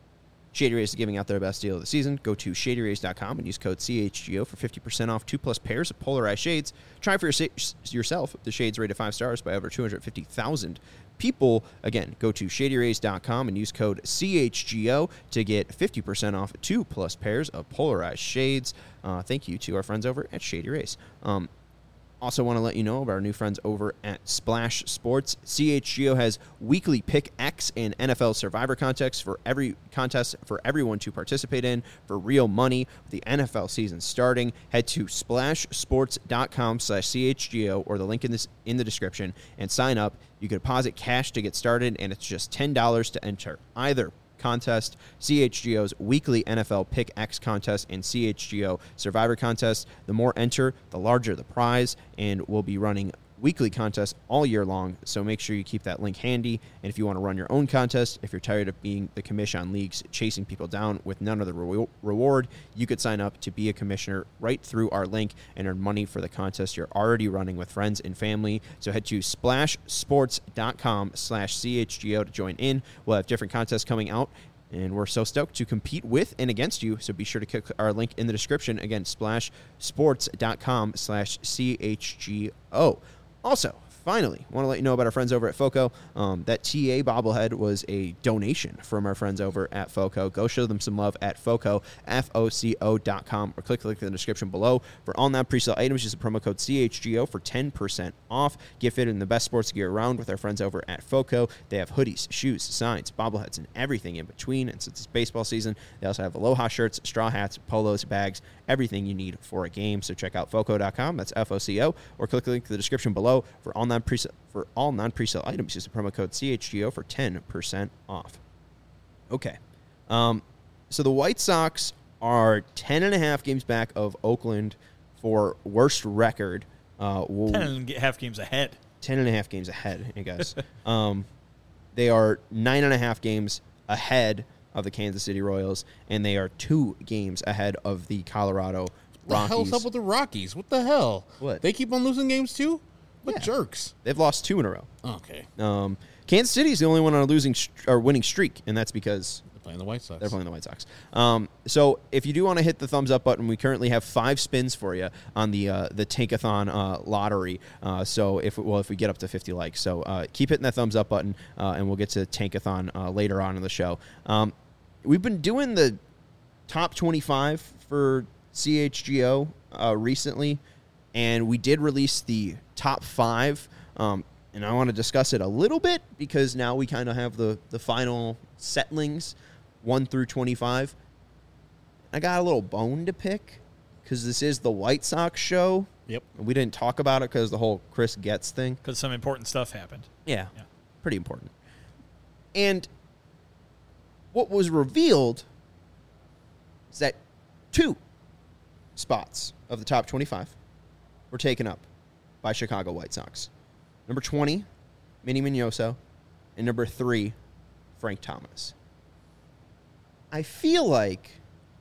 Shady Rays is giving out their best deal of the season. Go to shadyrays.com and use code CHGO for 50% off 2+ pairs of polarized shades. Try for yourself. The shades rated 5 stars by over 250,000 people. Again, go to shadyrays.com and use code CHGO to get 50% off 2+ pairs of polarized shades. Thank you to our friends over at Shady Rays. Also want to let you know about our new friends over at Splash Sports. CHGO has weekly Pick X and NFL Survivor contests for everyone to participate in for real money. With the NFL season starting, head to splashsports.com/CHGO or the link in the description and sign up. You can deposit cash to get started, and it's just $10 to enter either contest, CHGO's weekly NFL Pick X contest and CHGO Survivor contest. The more enter, the larger the prize, and we'll be running weekly contests all year long, so make sure you keep that link handy. And if you want to run your own contest, if you're tired of being the commission on leagues chasing people down with none of the reward, you could sign up to be a commissioner right through our link and earn money for the contest you're already running with friends and family. So head to splashsports.com/CHGO to join in. We'll have different contests coming out, and we're so stoked to compete with and against you. So be sure to click our link in the description. Again, splashsports.com/CHGO. Also, finally, want to let you know about our friends over at FOCO. That TA bobblehead was a donation from our friends over at FOCO. Go show them some love at FOCO, FOCO.com, or click the link in the description below. For all non-presale items, use the promo code CHGO for 10% off. Get fitted in the best sports gear around with our friends over at FOCO. They have hoodies, shoes, signs, bobbleheads, and everything in between. And since it's baseball season, they also have aloha shirts, straw hats, polos, bags, everything you need for a game. So check out FOCO.com, that's FOCO, or click the link in the description below. For all non-presale items, use the promo code CHGO for 10% off. Okay. So the White Sox are 10.5 games back of Oakland for worst record. 10.5 games ahead. 10.5 games ahead, I guess. They are 9.5 games ahead of the Kansas City Royals, and they are 2 games ahead of the Colorado Rockies. What the hell's up with the Rockies? What the hell? What? They keep on losing games too? What jerks? They've lost 2 in a row. Okay. Kansas City is the only one on a winning streak, and that's because They're playing the White Sox. they're playing the White Sox. So if you do want to hit the thumbs up button, we currently have 5 spins for you on the Tankathon lottery. So if we get up to 50 likes, so keep hitting that thumbs up button, and we'll get to Tankathon later on in the show. We've been doing the top 25 for CHGO recently, and we did release the top 5. And I want to discuss it a little bit because now we kind of have the final settlings, 1 through 25. I got a little bone to pick because this is the White Sox show. Yep. We didn't talk about it because the whole Chris Getz thing. Because some important stuff happened. Yeah, pretty important. And what was revealed is that 2 spots of the top 25 were taken up by Chicago White Sox. Number 20, Manny Minoso, and number 3, Frank Thomas. I feel like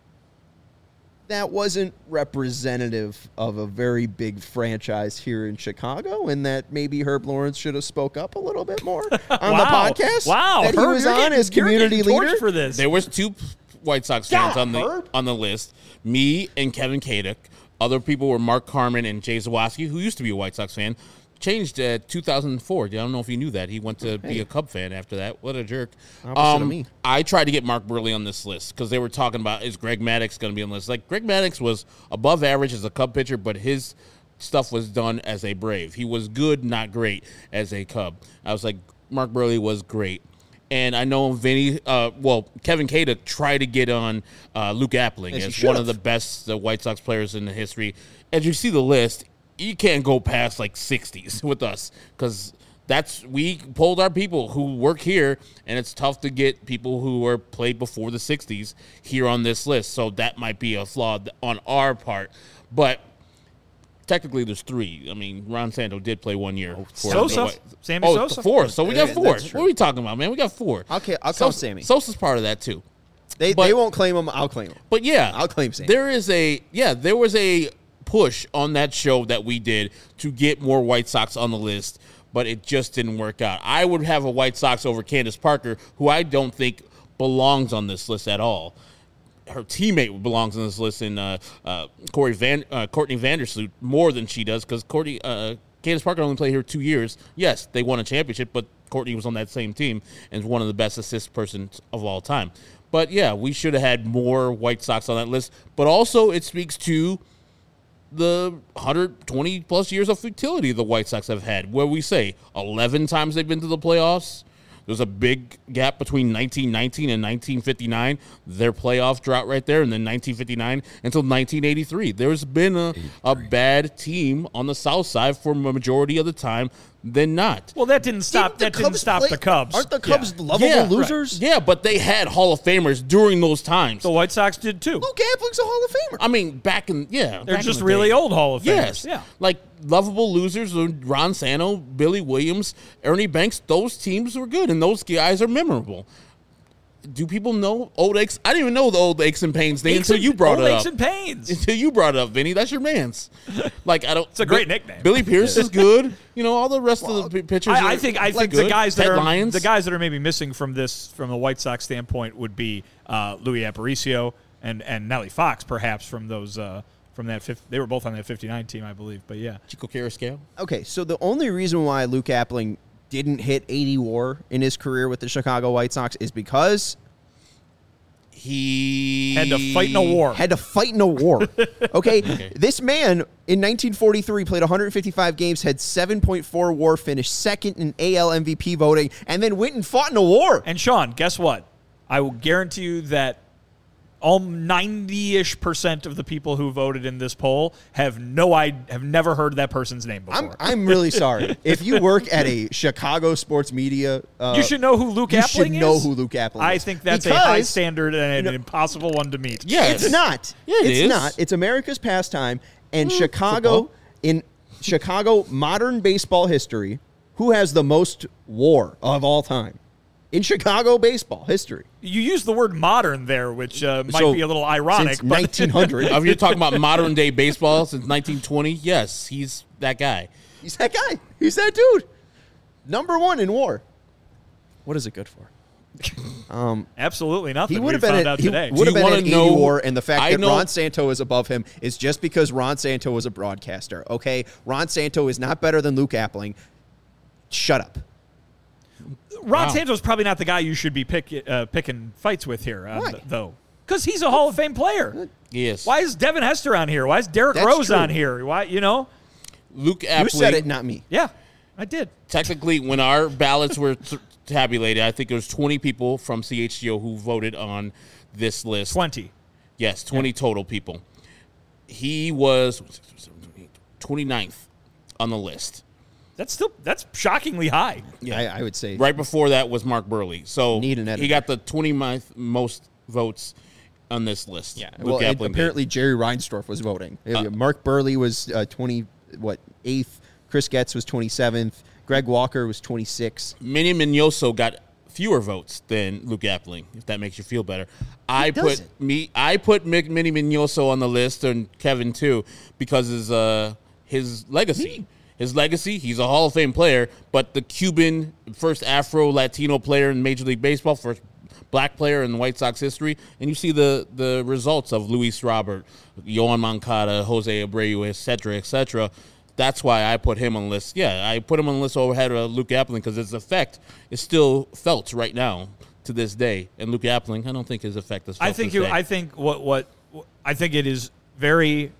that wasn't representative of a very big franchise here in Chicago, and that maybe Herb Lawrence should have spoke up a little bit more on the podcast. Wow, that he Herb, was on as community leader for this. There was 2 White Sox fans on the list. Me and Kevin Kaduk. Other people were Mark Carmen and Jay Zawaski, who used to be a White Sox fan. Changed 2004. I don't know if you knew that. He went to be a Cub fan after that. What a jerk. Opposite of me. I tried to get Mark Burley on this list because they were talking about, is Greg Maddux going to be on the list? Like, Greg Maddux was above average as a Cub pitcher, but his stuff was done as a Brave. He was good, not great, as a Cub. I was like, Mark Burley was great. And I know Kevin Kaduk tried to get on Luke Appling as one of the best White Sox players in the history. As you see the list, you can't go past like 60s with us because we pulled our people who work here, and it's tough to get people who were played before the 60s here on this list. So that might be a flaw on our part. But technically, there's 3. I mean, Ron Santo did play 1 year. Sosa? Sammy Sosa? 4. So we got 4. What are we talking about, man? We got 4. Okay, I'll count Sammy. Sosa's part of that, too. They won't claim him. I'll claim him. But, yeah. I'll claim Sammy. There was a push on that show that we did to get more White Sox on the list, but it just didn't work out. I would have a White Sox over Candace Parker, who I don't think belongs on this list at all. Her teammate belongs on this list in Courtney Vandersloot more than she does because Candace Parker only played here 2 years. Yes, they won a championship, but Courtney was on that same team and is one of the best assist persons of all time. But, yeah, we should have had more White Sox on that list. But also it speaks to the 120-plus years of futility the White Sox have had, where we say 11 times they've been to the playoffs. There's a big gap between 1919 and 1959, their playoff drought right there, and then 1959 until 1983. There's been a bad team on the South Side for a majority of the time than not. Well, that didn't stop. That didn't stop the Cubs. Aren't the Cubs lovable losers? Right. Yeah, but they had Hall of Famers during those times. The White Sox did too. Luke Appling's a Hall of Famer. I mean, they're just really old Hall of Famers. Yes, yeah, like lovable losers. Ron Santo, Billy Williams, Ernie Banks. Those teams were good, and those guys are memorable. Do people know old aches? I didn't even know the old aches and pains thing until you brought it up. Aches and pains. Until you brought it up, Vinny. That's your man's. Like I don't. It's a great nickname. Billy Pierce is good. You know all the rest of the pitchers. I think good. the guys that are maybe missing from a White Sox standpoint would be Louis Aparicio and Nellie Fox, perhaps from those from that they were both on that 59 team, I believe. But yeah, Chico Carrasquillo. Okay, so the only reason why Luke Appling didn't hit 80 WAR in his career with the Chicago White Sox is because he had to fight in a war. Okay? This man in 1943 played 155 games, had 7.4 WAR, finished second in AL MVP voting, and then went and fought in a war. And Sean, guess what? I will guarantee you that all 90-ish% of the people who voted in this poll have never heard that person's name before. I'm really sorry. If you work at a Chicago sports media, you should know who Luke Appling is. You should know who Luke Appling is. I think that's a high standard and an impossible one to meet. Yeah, it's not. Yeah, it's not. It's America's pastime, and Chicago modern baseball history. Who has the most WAR of all time? In Chicago baseball history. You use the word modern there, which might be a little ironic. Since 1900. If you're talking about modern day baseball since 1920, yes, he's that guy. He's that guy. He's that dude. Number one in WAR. What is it good for? Absolutely nothing. He would have been been at today. Would have been at 80 WAR, and the fact that Ron Santo is above him is just because Ron Santo was a broadcaster. Okay, Ron Santo is not better than Luke Appling. Shut up. Ron Santo's probably not the guy you should be picking fights with here, though. Because he's a Hall of Fame player. Yes. Why is Devin Hester on here? Why is Derek Rose on here? Why, Luke Appling. You said it, not me. Yeah, I did. Technically, when our ballots were tabulated, I think there was 20 people from CHGO who voted on this list. 20. Yes, 20 total people. He was 29th on the list. That's shockingly high. Yeah, I would say. Right before that was Mark Burley. So Need an editor. he got the 29th most votes on this list. Yeah. Well, apparently Jerry Reinsdorf was voting. Mark Burley was 8th. Chris Getz was 27th. Greg Walker was 26th. Manny Minoso got fewer votes than Luke Appling, if that makes you feel better. I put Manny Minoso on the list, and Kevin too, because his legacy. His legacy, he's a Hall of Fame player, but the Cuban first Afro-Latino player in Major League Baseball, first black player in White Sox history, and you see the results of Luis Robert, Yoan Moncada, Jose Abreu, et cetera, That's why I put him on the list. Yeah, I put him on the list overhead of Luke Appling because his effect is still felt right now to this day. And Luke Appling, I don't think his effect is felt I think it is very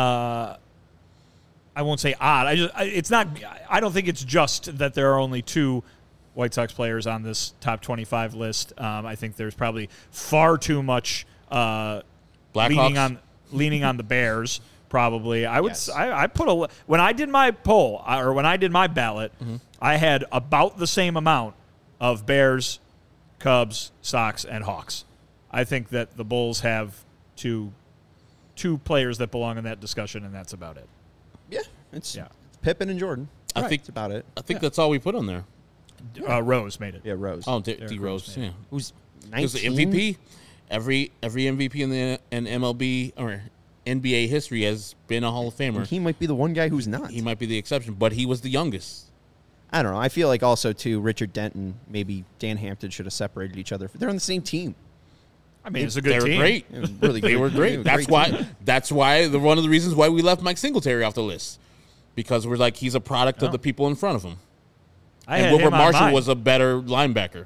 I won't say odd. I don't think it's just that there are only 2 White Sox players on this top 25 list. I think there's probably far too much leaning on the Bears. Probably, I would. Yes. I put when I did my poll or when I did my ballot, I had about the same amount of Bears, Cubs, Sox, and Hawks. I think that the Bulls have two players that belong in that discussion, and that's about it. Yeah, it's Pippen and Jordan. I think that's about it. I think that's all we put on there. Rose made it. Yeah, Rose. Oh, D Rose. Yeah, who's 19? The MVP. Every MVP in MLB or NBA history has been a Hall of Famer. And he might be the one guy who's not. He might be the exception, but he was the youngest. I don't know. I feel like also, too, Richard Dent and maybe Dan Hampton should have separated each other. They're on the same team. I mean, it's a good They team. were great. It was really They good. were great. That's why one of the reasons why we left Mike Singletary off the list. Because we're like, he's a product of the people in front of him. And Wilbert Marshall was a better linebacker.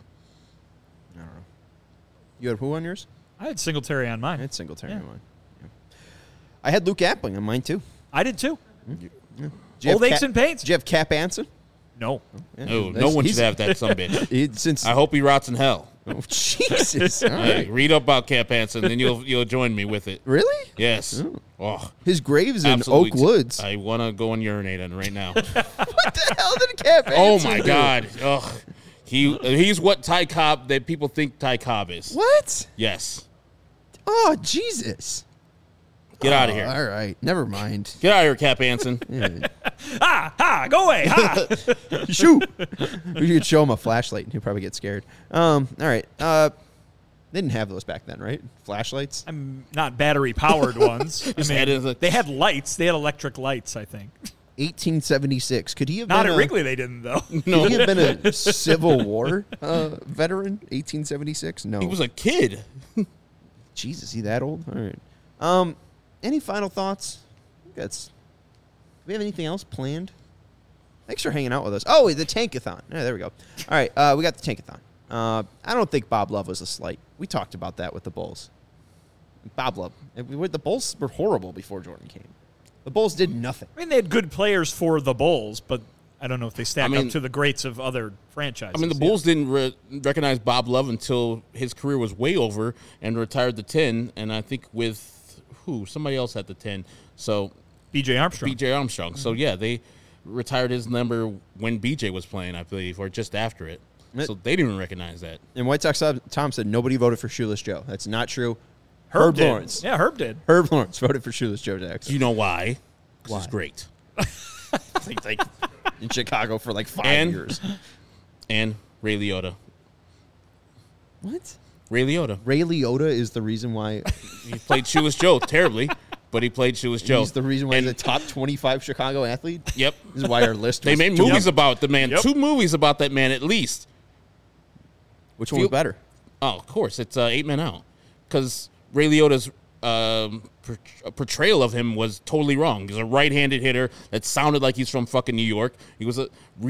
I don't know. You had who on yours? I had Singletary on mine. I had Singletary Yeah. on mine. Yeah. I had Luke Appling on mine, too. I did too. Did you Old have aches and pains. Did you have Cap Anson? No. Yeah, No one should have that sumbitch. Since I hope he rots in hell. oh, Jesus. All Hey, right. read up about Cap Anson, and you'll join me with it. Really? Yes. Oh, His grave's in absolutely. Oak Woods. I want to go and urinate on it right now. What the hell did Cap Oh Anson my do? God. Ugh. He's what Ty Cobb that people think Ty Cobb is. What? Yes. Oh, Jesus. Get out of here. All right. Never mind. Get out of here, Cap Anson. Yeah. Ha! Go away! Ha! Shoot. We could show him a flashlight and he'll probably get scared. All right. They didn't have those back then, right? Flashlights? I'm not battery-powered ones. I had it as a- mean, they had lights. They had electric lights, I think. 1876. Could he have Not been at Wrigley, they didn't, though. Could he have been a Civil War veteran? 1876? No. He was a kid. Jesus, is he that old? All right. Any final thoughts? Do we have anything else planned? Thanks for hanging out with us. Oh, the Tankathon. Yeah, there we go. All right, we got the Tankathon. I don't think Bob Love was a slight. We talked about that with the Bulls. Bob Love. The Bulls were horrible before Jordan came. The Bulls did nothing. I mean, they had good players for the Bulls, but I don't know if they stack I mean- up to the greats of other franchises. I mean, the Bulls didn't recognize Bob Love until his career was way over and retired the 10, and I think with somebody else at the 10. So B.J. Armstrong. B.J. Armstrong. So, yeah, they retired his number when B.J. was playing, I believe, or just after it. So they didn't even recognize that. And White Sox Tom said nobody voted for Shoeless Joe. That's not true. Herb did. Lawrence. Yeah, Herb did. Herb Lawrence voted for Shoeless Joe Jackson. Do you know why? 'Cause Why? he's great. He's like in Chicago for like 5 And- years. And Ray Liotta. What? Ray Liotta. Ray Liotta is the reason why He played Shoeless Joe terribly, but he played Shoeless Joe. he's the reason why And- he's a top 25 Chicago athlete. Yep. This is why our list They was made Joe. movies about the man. Yep. 2 movies about that man at least. Which one was better? Oh, of course. It's 8 Men Out. Because Ray Liotta's portrayal of him was totally wrong. He's a right-handed hitter that sounded like he's from fucking New York. He was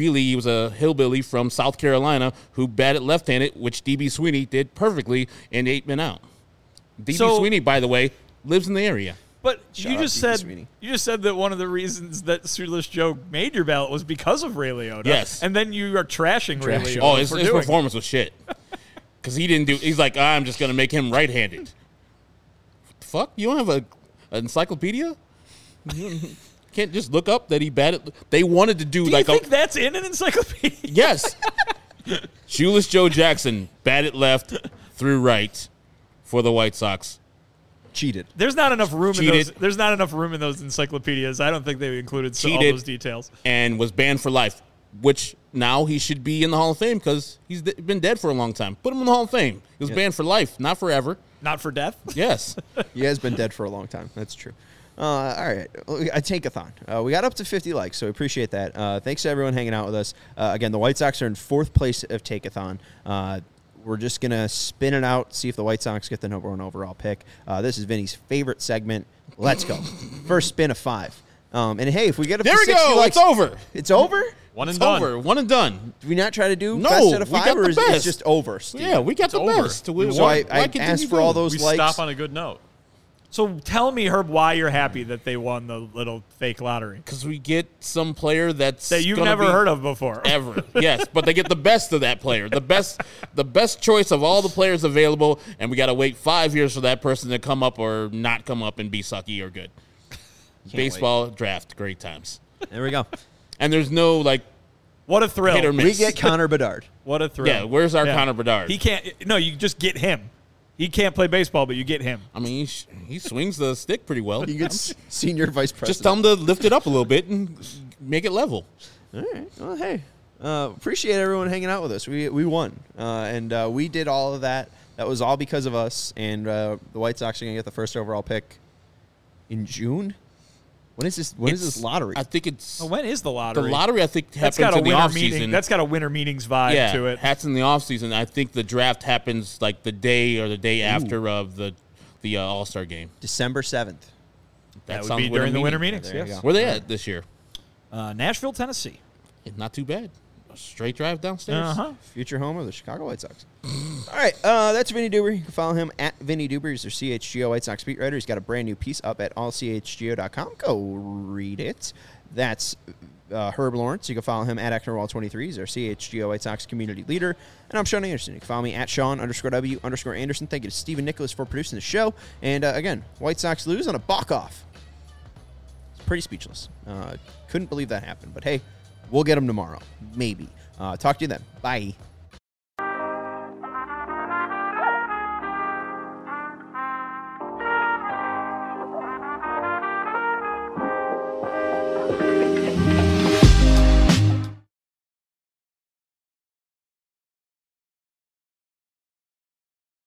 a hillbilly from South Carolina who batted left-handed, which D.B. Sweeney did perfectly in 8 Men Out. D.B. So- Sweeney, by the way, lives in the area. But Shout you out just D.B. said Sweeney. that one of the reasons that Shoeless Joe made your ballot was because of Ray Liotta. Yes. And then you are trashing Ray Liotta. Oh, his for doing it. performance was shit. Because he didn't do. He's like, I'm just gonna make him right-handed. What the fuck? You don't have an encyclopedia? You can't just look up that he batted. They wanted to do Do like you think that's in an encyclopedia? yes. Shoeless Joe Jackson batted left through right for the White Sox. Cheated. There's not enough room in Cheated. those. There's not enough room in those encyclopedias. I don't think they included all Cheated. those details. And was banned for life, which now he should be in the Hall of Fame because he's been dead for a long time. Put him in the Hall of Fame. He was banned for life, not forever. Not for death. Yes. He has been dead for a long time. That's true. All right. A Tankathon. We got up to 50 likes, so we appreciate that. Thanks to everyone hanging out with us. Again, the White Sox are in 4th place of Tankathon. We're just going to spin it out, see if the White Sox get the number 1 overall pick. This is Vinny's favorite segment. Let's go. First spin of 5. And hey, if we get up There to we 60 go. likes, It's over. It's over? One and It's done. over. One and done. Do we not try to do No, best out of we 5, got or the is it best. just over, Steve? Yeah, we got the over. best. So I asked for all those We likes. stop on a good note. So tell me, Herb, why you're happy that they won the little fake lottery Because we get some player that's that you've gonna never be heard of before. ever. Yes, but they get the best of that player, the best choice of all the players available, and we got to wait 5 years for that person to come up or not come up and be sucky or good. Baseball draft, great times, There we go. and there's no like What a thrill! hit or miss. We get Connor Bedard. What a thrill! Yeah, where's our Connor Bedard? He can't. No, you just get him. He can't play baseball, but you get him. I mean, he swings the stick pretty well. You get senior vice president. Just tell him to lift it up a little bit and make it level. All right. Well, hey, appreciate everyone hanging out with us. We won, and we did all of that. That was all because of us. And the White Sox are going to get the first overall pick in June. When is this? When is this lottery? I think it's Oh, when is the lottery? the lottery. I think That's happens got a in the winter off meeting. season. That's got a winter meetings vibe to it. Hats in the off season. I think the draft happens like the day or the day after of the All-Star game. December 7th. That would sounds be during the winter meeting. meetings. There you Yes. go. Where they at this year? Nashville, Tennessee. Not too bad. A straight drive downstairs. Future home of the Chicago White Sox. All right, that's Vinny Duber. You can follow him at Vinny Duber. He's their CHGO White Sox beat writer. He's got a brand new piece up at allchgo.com. Go read it. That's Herb Lawrence. You can follow him at Ecknerwall23. He's our CHGO White Sox community leader. And I'm Sean Anderson. You can follow me at Sean_W_Anderson. Thank you to Stephen Nicholas for producing the show. And again, White Sox lose on a balk-off. It's pretty speechless. Couldn't believe that happened. But hey, we'll get them tomorrow. Maybe. Talk to you then. Bye.